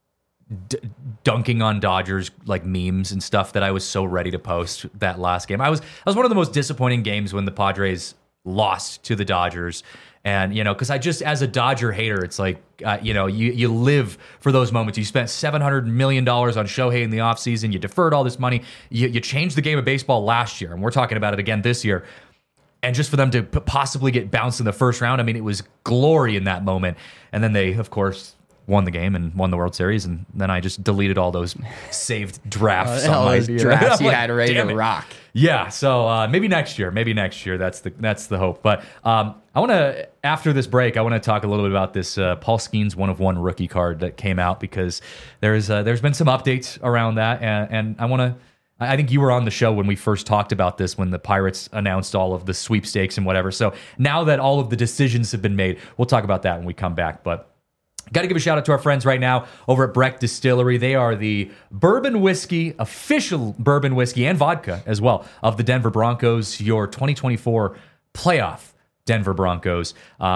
dunking on Dodgers like memes and stuff that I was so ready to post that last game. I was one of the most disappointing games when the Padres lost to the Dodgers. And, because I just, as a Dodger hater, it's like, you live for those moments. You spent $700 million on Shohei in the offseason. You deferred all this money. You changed the game of baseball last year, and we're talking about it again this year. And just for them to possibly get bounced in the first round, I mean, it was glory in that moment. And then they, of course, won the game and won the World Series. And then I just deleted all those saved drafts. All those drafts I'm you like, had ready damn to it. rock. Yeah, so maybe next year. That's the hope. But I want to, after this break, I want to talk a little bit about this Paul Skeens 1-of-1 rookie card that came out, because there's been some updates around that, and I think you were on the show when we first talked about this, when the Pirates announced all of the sweepstakes and whatever. So now that all of the decisions have been made, we'll talk about that when we come back. But got to give a shout out to our friends right now over at Breck Distillery. They are the bourbon whiskey, official bourbon whiskey and vodka as well of the Denver Broncos, your 2024 playoff Denver Broncos.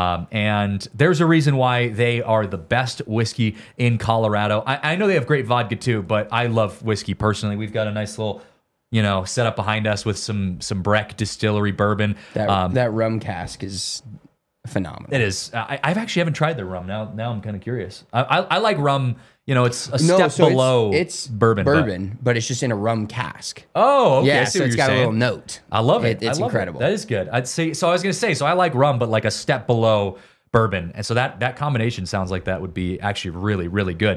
And there's a reason why they are the best whiskey in Colorado. I know they have great vodka too, but I love whiskey personally. We've got a nice little setup behind us with some Breck Distillery bourbon. That rum cask is phenomenal. It is. I've actually haven't tried their rum. Now I'm kind of curious. I like rum. It's a step below it's bourbon. but it's just in a rum cask. Oh, okay. Yeah, I see so what it's you're got saying. a little note. I love it. It's I love incredible. That is good. I'd say. So I was going to say. So I like rum, but like a step below bourbon, and so that combination sounds like that would be actually really, really good.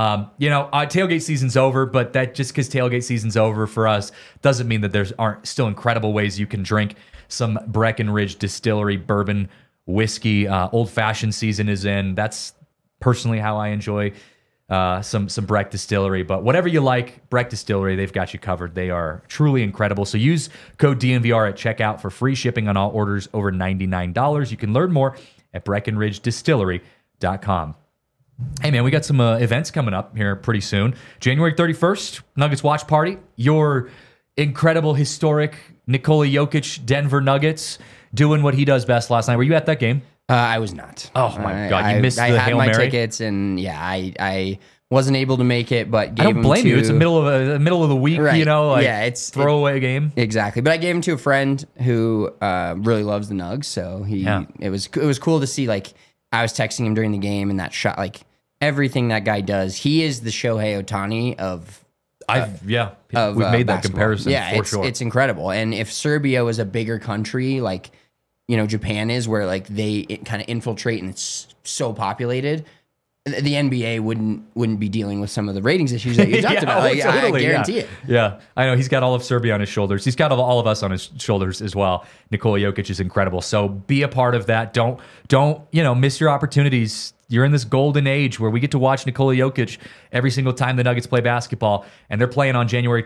Tailgate season's over, but that just because tailgate season's over for us doesn't mean that there aren't still incredible ways you can drink some Breckenridge Distillery bourbon whiskey. Old fashioned season is in. That's personally how I enjoy some Breck Distillery. But whatever you like, Breck Distillery, they've got you covered. They are truly incredible. So use code DNVR at checkout for free shipping on all orders over $99. You can learn more at BreckenridgeDistillery.com. Hey, man, we got some events coming up here pretty soon. January 31st, Nuggets Watch Party. Your incredible, historic Nikola Jokic Denver Nuggets doing what he does best last night. Were you at that game? I was not. Oh, my God. You missed the I had Hail my Mary? tickets, and yeah, I wasn't able to make it, but gave I don't them blame to, you. It's the middle of the week, Right. it's throwaway game. Exactly, but I gave him to a friend who really loves the Nugs, so it was cool to see. Like, I was texting him during the game, and that shot, like everything that guy does, he is the Shohei Ohtani of We've made that basketball. comparison for sure. It's incredible. And if Serbia was a bigger country, like Japan is, where like they kind of infiltrate and it's so populated, the NBA wouldn't be dealing with some of the ratings issues that you talked about. Like, totally, I guarantee it. Yeah, I know he's got all of Serbia on his shoulders. He's got all of us on his shoulders as well. Nikola Jokic is incredible. So be a part of that. Don't miss your opportunities. You're in this golden age where we get to watch Nikola Jokic every single time the Nuggets play basketball, and they're playing on January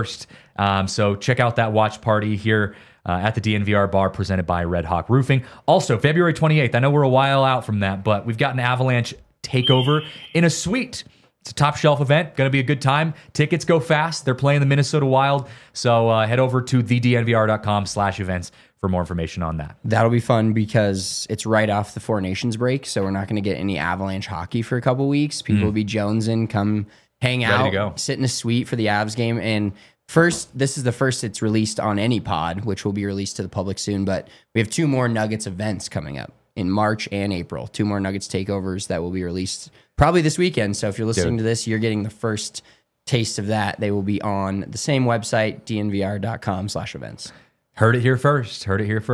31st. So check out that watch party here at the DNVR bar presented by Red Hawk Roofing. Also, February 28th, I know we're a while out from that, but we've got an Avalanche takeover in a suite. It's a top shelf event. Going to be a good time. Tickets go fast. They're playing the Minnesota Wild. So head over to thednvr.com/events for more information on that. That'll be fun because it's right off the Four Nations break, so we're not going to get any Avalanche hockey for a couple weeks. People will be jonesing, come hang Ready to out, go. sit in a suite for the Avs game. And this is the first it's released on any pod, which will be released to the public soon. But we have 2 more Nuggets events coming up in March and April. 2 more Nuggets takeovers that will be released probably this weekend. So if you're listening to this, you're getting the first taste of that. They will be on the same website, dnvr.com/events. Heard it here first.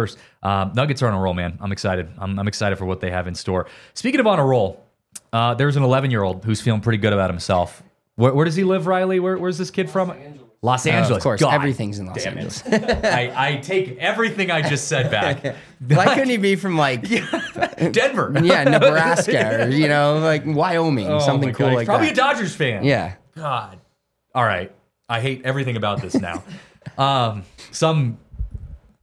Nuggets are on a roll, man. I'm excited. I'm excited for what they have in store. Speaking of on a roll, there's an 11-year-old who's feeling pretty good about himself. Where does he live, Riley? Where's this kid from? Los Angeles. Of course, God everything's in Los damn Angeles. I take everything I just said back. Why couldn't he be from like Denver? Nebraska or like Wyoming, Oh something my cool God. like Probably that? a Dodgers fan. Yeah. God. All right. I hate everything about this now. Some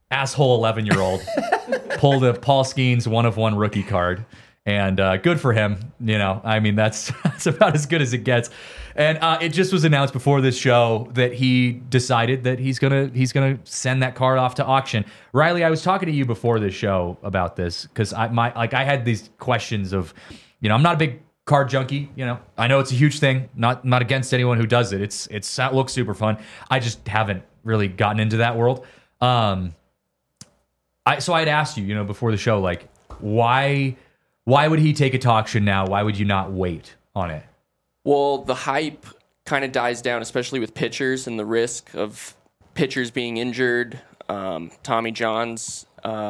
asshole 11-year-old pulled a Paul Skeens 1-of-1 rookie card. And good for him. You know, I mean, that's about as good as it gets. And it just was announced before this show that he decided that he's gonna send that card off to auction. Riley, I was talking to you before this show about this because I had these questions of, you know, I'm not a big card junkie. You know, I know it's a huge thing. Not against anyone who does it. It looks super fun. I just haven't really gotten into that world. So I'd asked you, you know, before the show, like, why would he take it to auction now? Why would you not wait on it? Well, the hype kind of dies down, especially with pitchers and the risk of pitchers being injured, Tommy John's,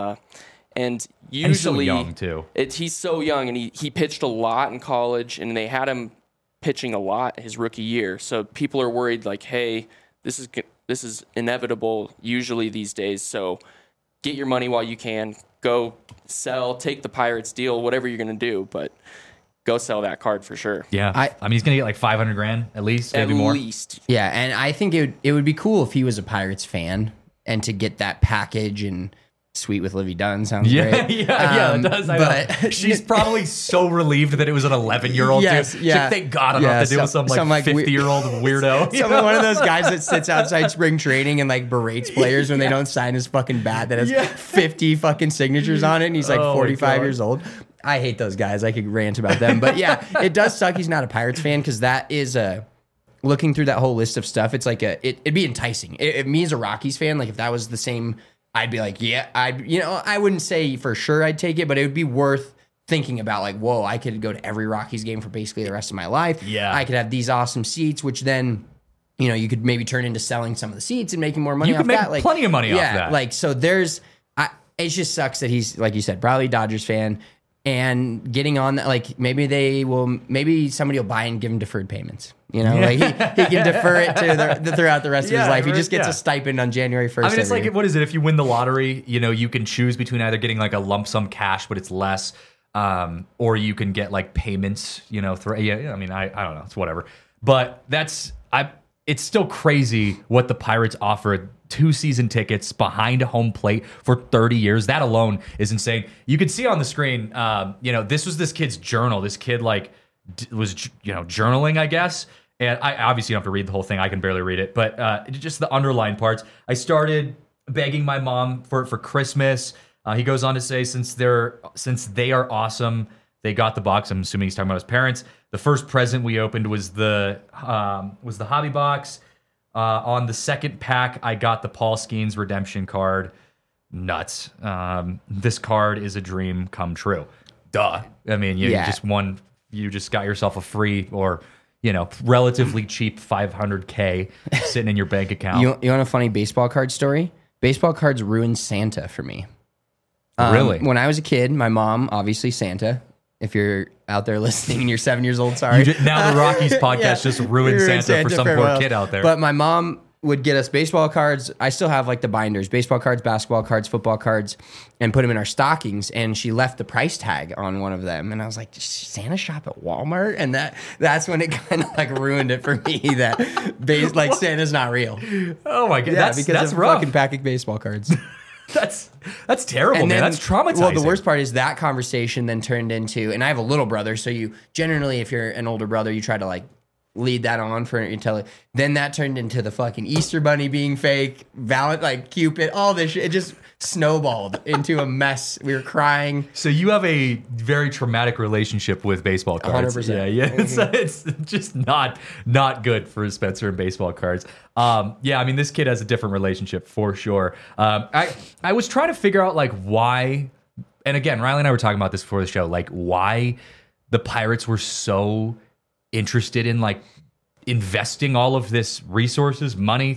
and usually he's so young too. He's so young, and he pitched a lot in college, and they had him pitching a lot his rookie year. So people are worried, like, hey, this is inevitable usually these days. So get your money while you can. Go sell, take the Pirates deal, whatever you're going to do, but go sell that card for sure. Yeah. I mean, he's going to get like $500,000 at least, maybe more. At least. Yeah, and I think it would be cool if he was a Pirates fan and to get that package and Sweet with Livy Dunn sounds great. Yeah, it does. I know. She's probably so relieved that it was an 11-year-old Yes, too. yeah. She's like, thank God I don't have to deal with some 50-year-old weirdo. One of those guys that sits outside spring training and like berates players when they don't sign his fucking bat that has 50 fucking signatures on it, and he's like 45 years old. I hate those guys. I could rant about them, but yeah, it does suck he's not a Pirates fan because that is looking through that whole list of stuff. It's like it'd be enticing. Me as a Rockies fan, like if that was the same, I'd be like, yeah, I wouldn't say for sure I'd take it, but it would be worth thinking about, like, whoa, I could go to every Rockies game for basically the rest of my life. Yeah. I could have these awesome seats, which then, you know, you could maybe turn into selling some of the seats and making more money You off could make that. Like, plenty of money off yeah, that. like, so it just sucks that he's, like you said, probably a Dodgers fan and getting on that, like, maybe somebody will buy and give him deferred payments. You know, like he can defer it to throughout the rest of his life. He just gets a stipend on January 1st. I mean, it's like, what is it? If you win the lottery, you know, you can choose between either getting like a lump sum cash, but it's less, or you can get like payments, you know, I mean, I don't know. It's whatever. But it's still crazy what the Pirates offered. 2 season tickets behind a home plate for 30 years. That alone is insane. You can see on the screen, you know, this was this kid's journal. This kid like was, you know, journaling, I guess. And I obviously don't have to read the whole thing. I can barely read it, but just the underlined parts. I begging my mom for Christmas. He goes on to say, since they are awesome, they got the box. I'm assuming he's talking about his parents. The first present we opened was the hobby box. On the second pack, I got the Paul Skeens redemption card. Nuts. This card is a dream come true. Duh. I mean, you just got yourself a free or, you know, relatively cheap $500K sitting in your bank account. You want a funny baseball card story? Baseball cards ruined Santa for me. Really? When I was a kid, my mom, obviously Santa. If you're out there listening and you're 7 years old, sorry. Now the Rockies podcast just ruined Santa for some poor kid out there. But my mom would get us baseball cards. I still have like the binders, baseball cards, basketball cards, football cards, and put them in our stockings. And she left the price tag on one of them. And I was like, does Santa shop at Walmart? And that's when it kind of like ruined it for me that like Santa's not real. Oh my God. Yeah, that's rough. Fucking pack of baseball cards. That's terrible, man. That's traumatizing. Well, the worst part is that conversation then turned into, and I have a little brother, so you generally, if you're an older brother, you try to like lead that on for until it. Then that turned into the fucking Easter Bunny being fake, like Cupid, all this shit. It just snowballed into a mess. We were crying. So you have a very traumatic relationship with baseball cards. 100%. Yeah. It's just not good for Spencer and baseball cards. I mean, this kid has a different relationship for sure. I was trying to figure out like why, and again, Riley and I were talking about this before the show, like why the Pirates were so interested in like investing all of this resources, money,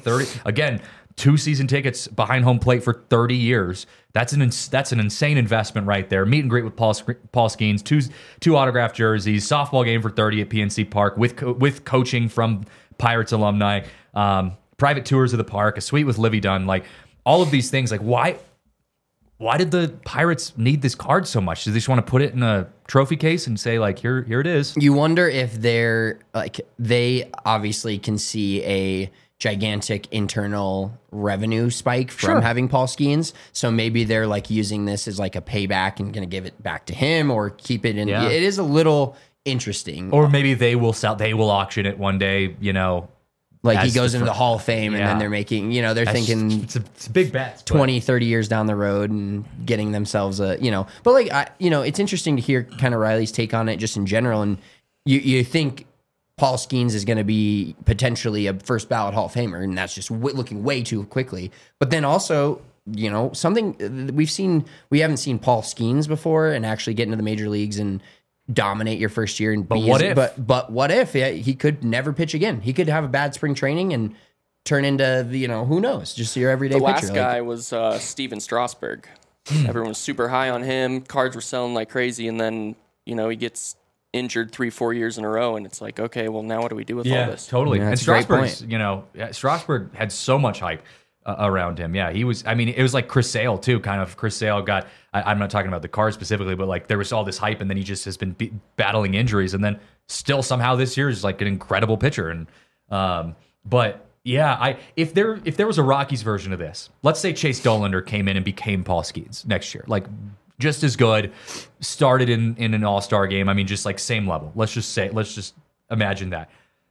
2 season tickets behind home plate for 30 years. That's an insane investment right there. Meet and greet with Paul Skeens, two autographed jerseys, softball game for 30 at PNC Park with coaching from Pirates alumni, private tours of the park, a suite with Livy Dunn, like all of these things. Like why did the Pirates need this card so much? Do they just want to put it in a trophy case and say like, here it is? You wonder if they're like, they obviously can see gigantic internal revenue spike from having Paul Skeens. So maybe they're like using this as like a payback and going to give it back to him or keep it in. Yeah. It is a little interesting. Or maybe they will auction it one day, Like he as goes the into the Hall of Fame and Yeah. then they're making, they're thinking it's a big bet. 20, 30 years down the road and getting themselves but like, it's interesting to hear kind of Riley's take on it just in general. And you think Paul Skeens is going to be potentially a first ballot Hall of Famer, and that's just looking way too quickly. But then also, something we haven't seen Paul Skeens before and actually get into the major leagues and dominate your first year. And but what if he could never pitch again? He could have a bad spring training and turn into who knows, just your everyday The pitcher. last guy was Steven Strasburg. Everyone was super high on him. Cards were selling like crazy, and then he gets injured 3-4 years in a row, and it's like, okay, well, now what do we do with all this? Totally. Yeah, and that's a great Strasburg's, Strasburg had so much hype around him. Yeah, he was. I mean, it was like Chris Sale too. Kind of Chris Sale got. I'm not talking about the Cards specifically, but like there was all this hype, and then he just has been battling injuries, and then still somehow this year is like an incredible pitcher. And but yeah, if there was a Rockies version of this, let's say Chase Dollander came in and became Paul Skeens next year, like just as good, started in an All-Star game. I mean, just like same level. Let's just imagine that.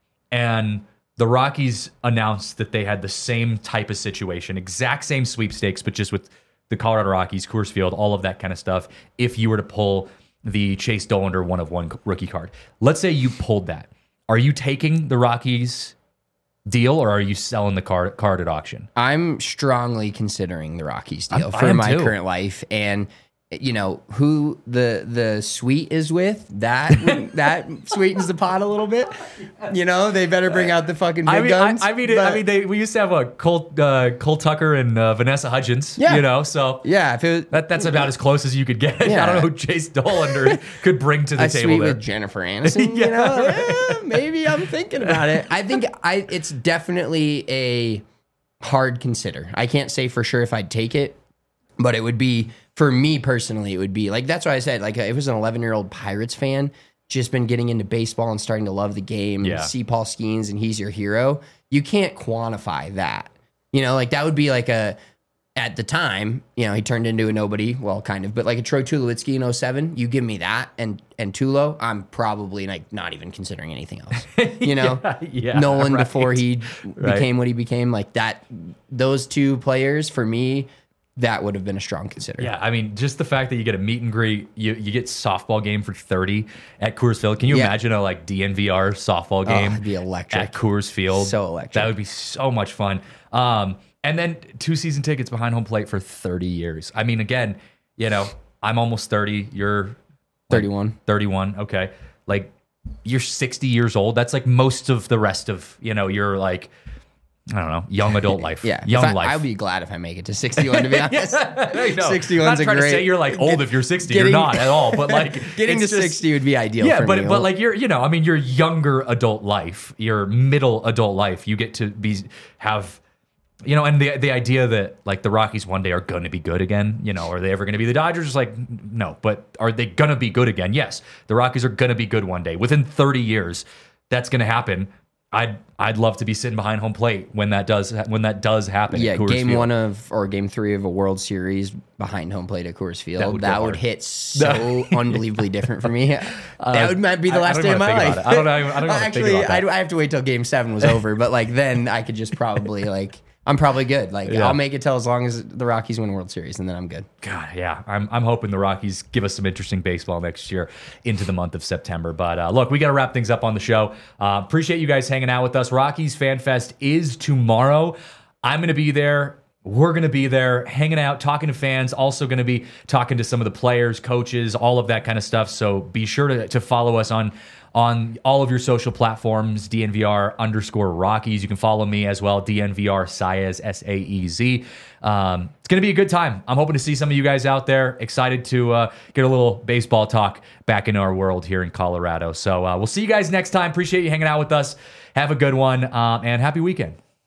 And the Rockies announced that they had the same type of situation, exact same sweepstakes, but just with the Colorado Rockies, Coors Field, all of that kind of stuff. If you were to pull the Chase Dollander 1-of-1 rookie card, let's say you pulled that. Are you taking the Rockies deal or are you selling the card at auction? I'm strongly considering the Rockies deal I for am my too. current life. And who the suite is with, that sweetens the pot a little bit. They better bring out the fucking big guns. We used to have Cole Tucker and Vanessa Hudgens. Yeah. So yeah, if it was that's about as close as you could get. Yeah. I don't know who Chase Dollander could bring to the a table suite there. with Jennifer Aniston, maybe I'm thinking about it. I think it's definitely a hard consider. I can't say for sure if I'd take it, but it would be, for me personally, it would be like, that's why I said, like, it was an 11-year-old Pirates fan, just been getting into baseball and starting to love the game, Yeah. see Paul Skeens and he's your hero. You can't quantify that. Like that would be like at the time, he turned into a nobody, well, kind of, but like a Troy Tulowitzki in 07, you give me that and Tulo, I'm probably like not even considering anything else. Yeah, Nolan right. before he Right. became what he became, like that, those two players for me, that would have been a strong consider. Yeah, I mean, just the fact that you get a meet and greet, you get softball game for 30 at Coors Field. Can you Yeah. imagine a like DNVR softball game it'd be electric. at Coors Field? So electric. That would be so much fun. And then 2 season tickets behind home plate for 30 years. I mean, again, I'm almost 30. You're 31. 31. Okay. Like you're 60 years old. That's like most of the rest of, your like, I don't know, young adult life. Yeah. Young life. I'd be glad if I make it to 61, to be honest. I know. 61's I'm not a trying great. to say you're like old if you're 60. getting- You're not at all. But like Getting to it's just- 60 would be ideal Yeah, for me. but like you're, I mean, your younger adult life, your middle adult life, you get to have, and the idea that like the Rockies one day are going to be good again, are they ever going to be the Dodgers? It's like, no, but are they going to be good again? Yes, the Rockies are going to be good one day. Within 30 years, that's going to happen. I'd love to be sitting behind home plate when that does happen. Yeah, at Coors game Field. 1 or game 3 of a World Series behind home plate at Coors Field. That would go That would hard. hit so unbelievably different for me. That might be the I last don't day of wanna my think life. about it. I don't wanna think Actually, about that. I have to wait till game 7 was over, but like then I could just probably like I'm probably good. Like Yeah. I'll make it till as long as the Rockies win World Series, and then I'm good. God, yeah, I'm hoping the Rockies give us some interesting baseball next year into the month of September. But look, we got to wrap things up on the show. Appreciate you guys hanging out with us. Rockies Fan Fest is tomorrow. I'm going to be there. We're going to be there hanging out, talking to fans, also going to be talking to some of the players, coaches, all of that kind of stuff. So be sure to follow us on all of your social platforms, DNVR_Rockies. You can follow me as well, DNVR Saez, Saez. It's going to be a good time. I'm hoping to see some of you guys out there. Excited to get a little baseball talk back in our world here in Colorado. So we'll see you guys next time. Appreciate you hanging out with us. Have a good one, and happy weekend.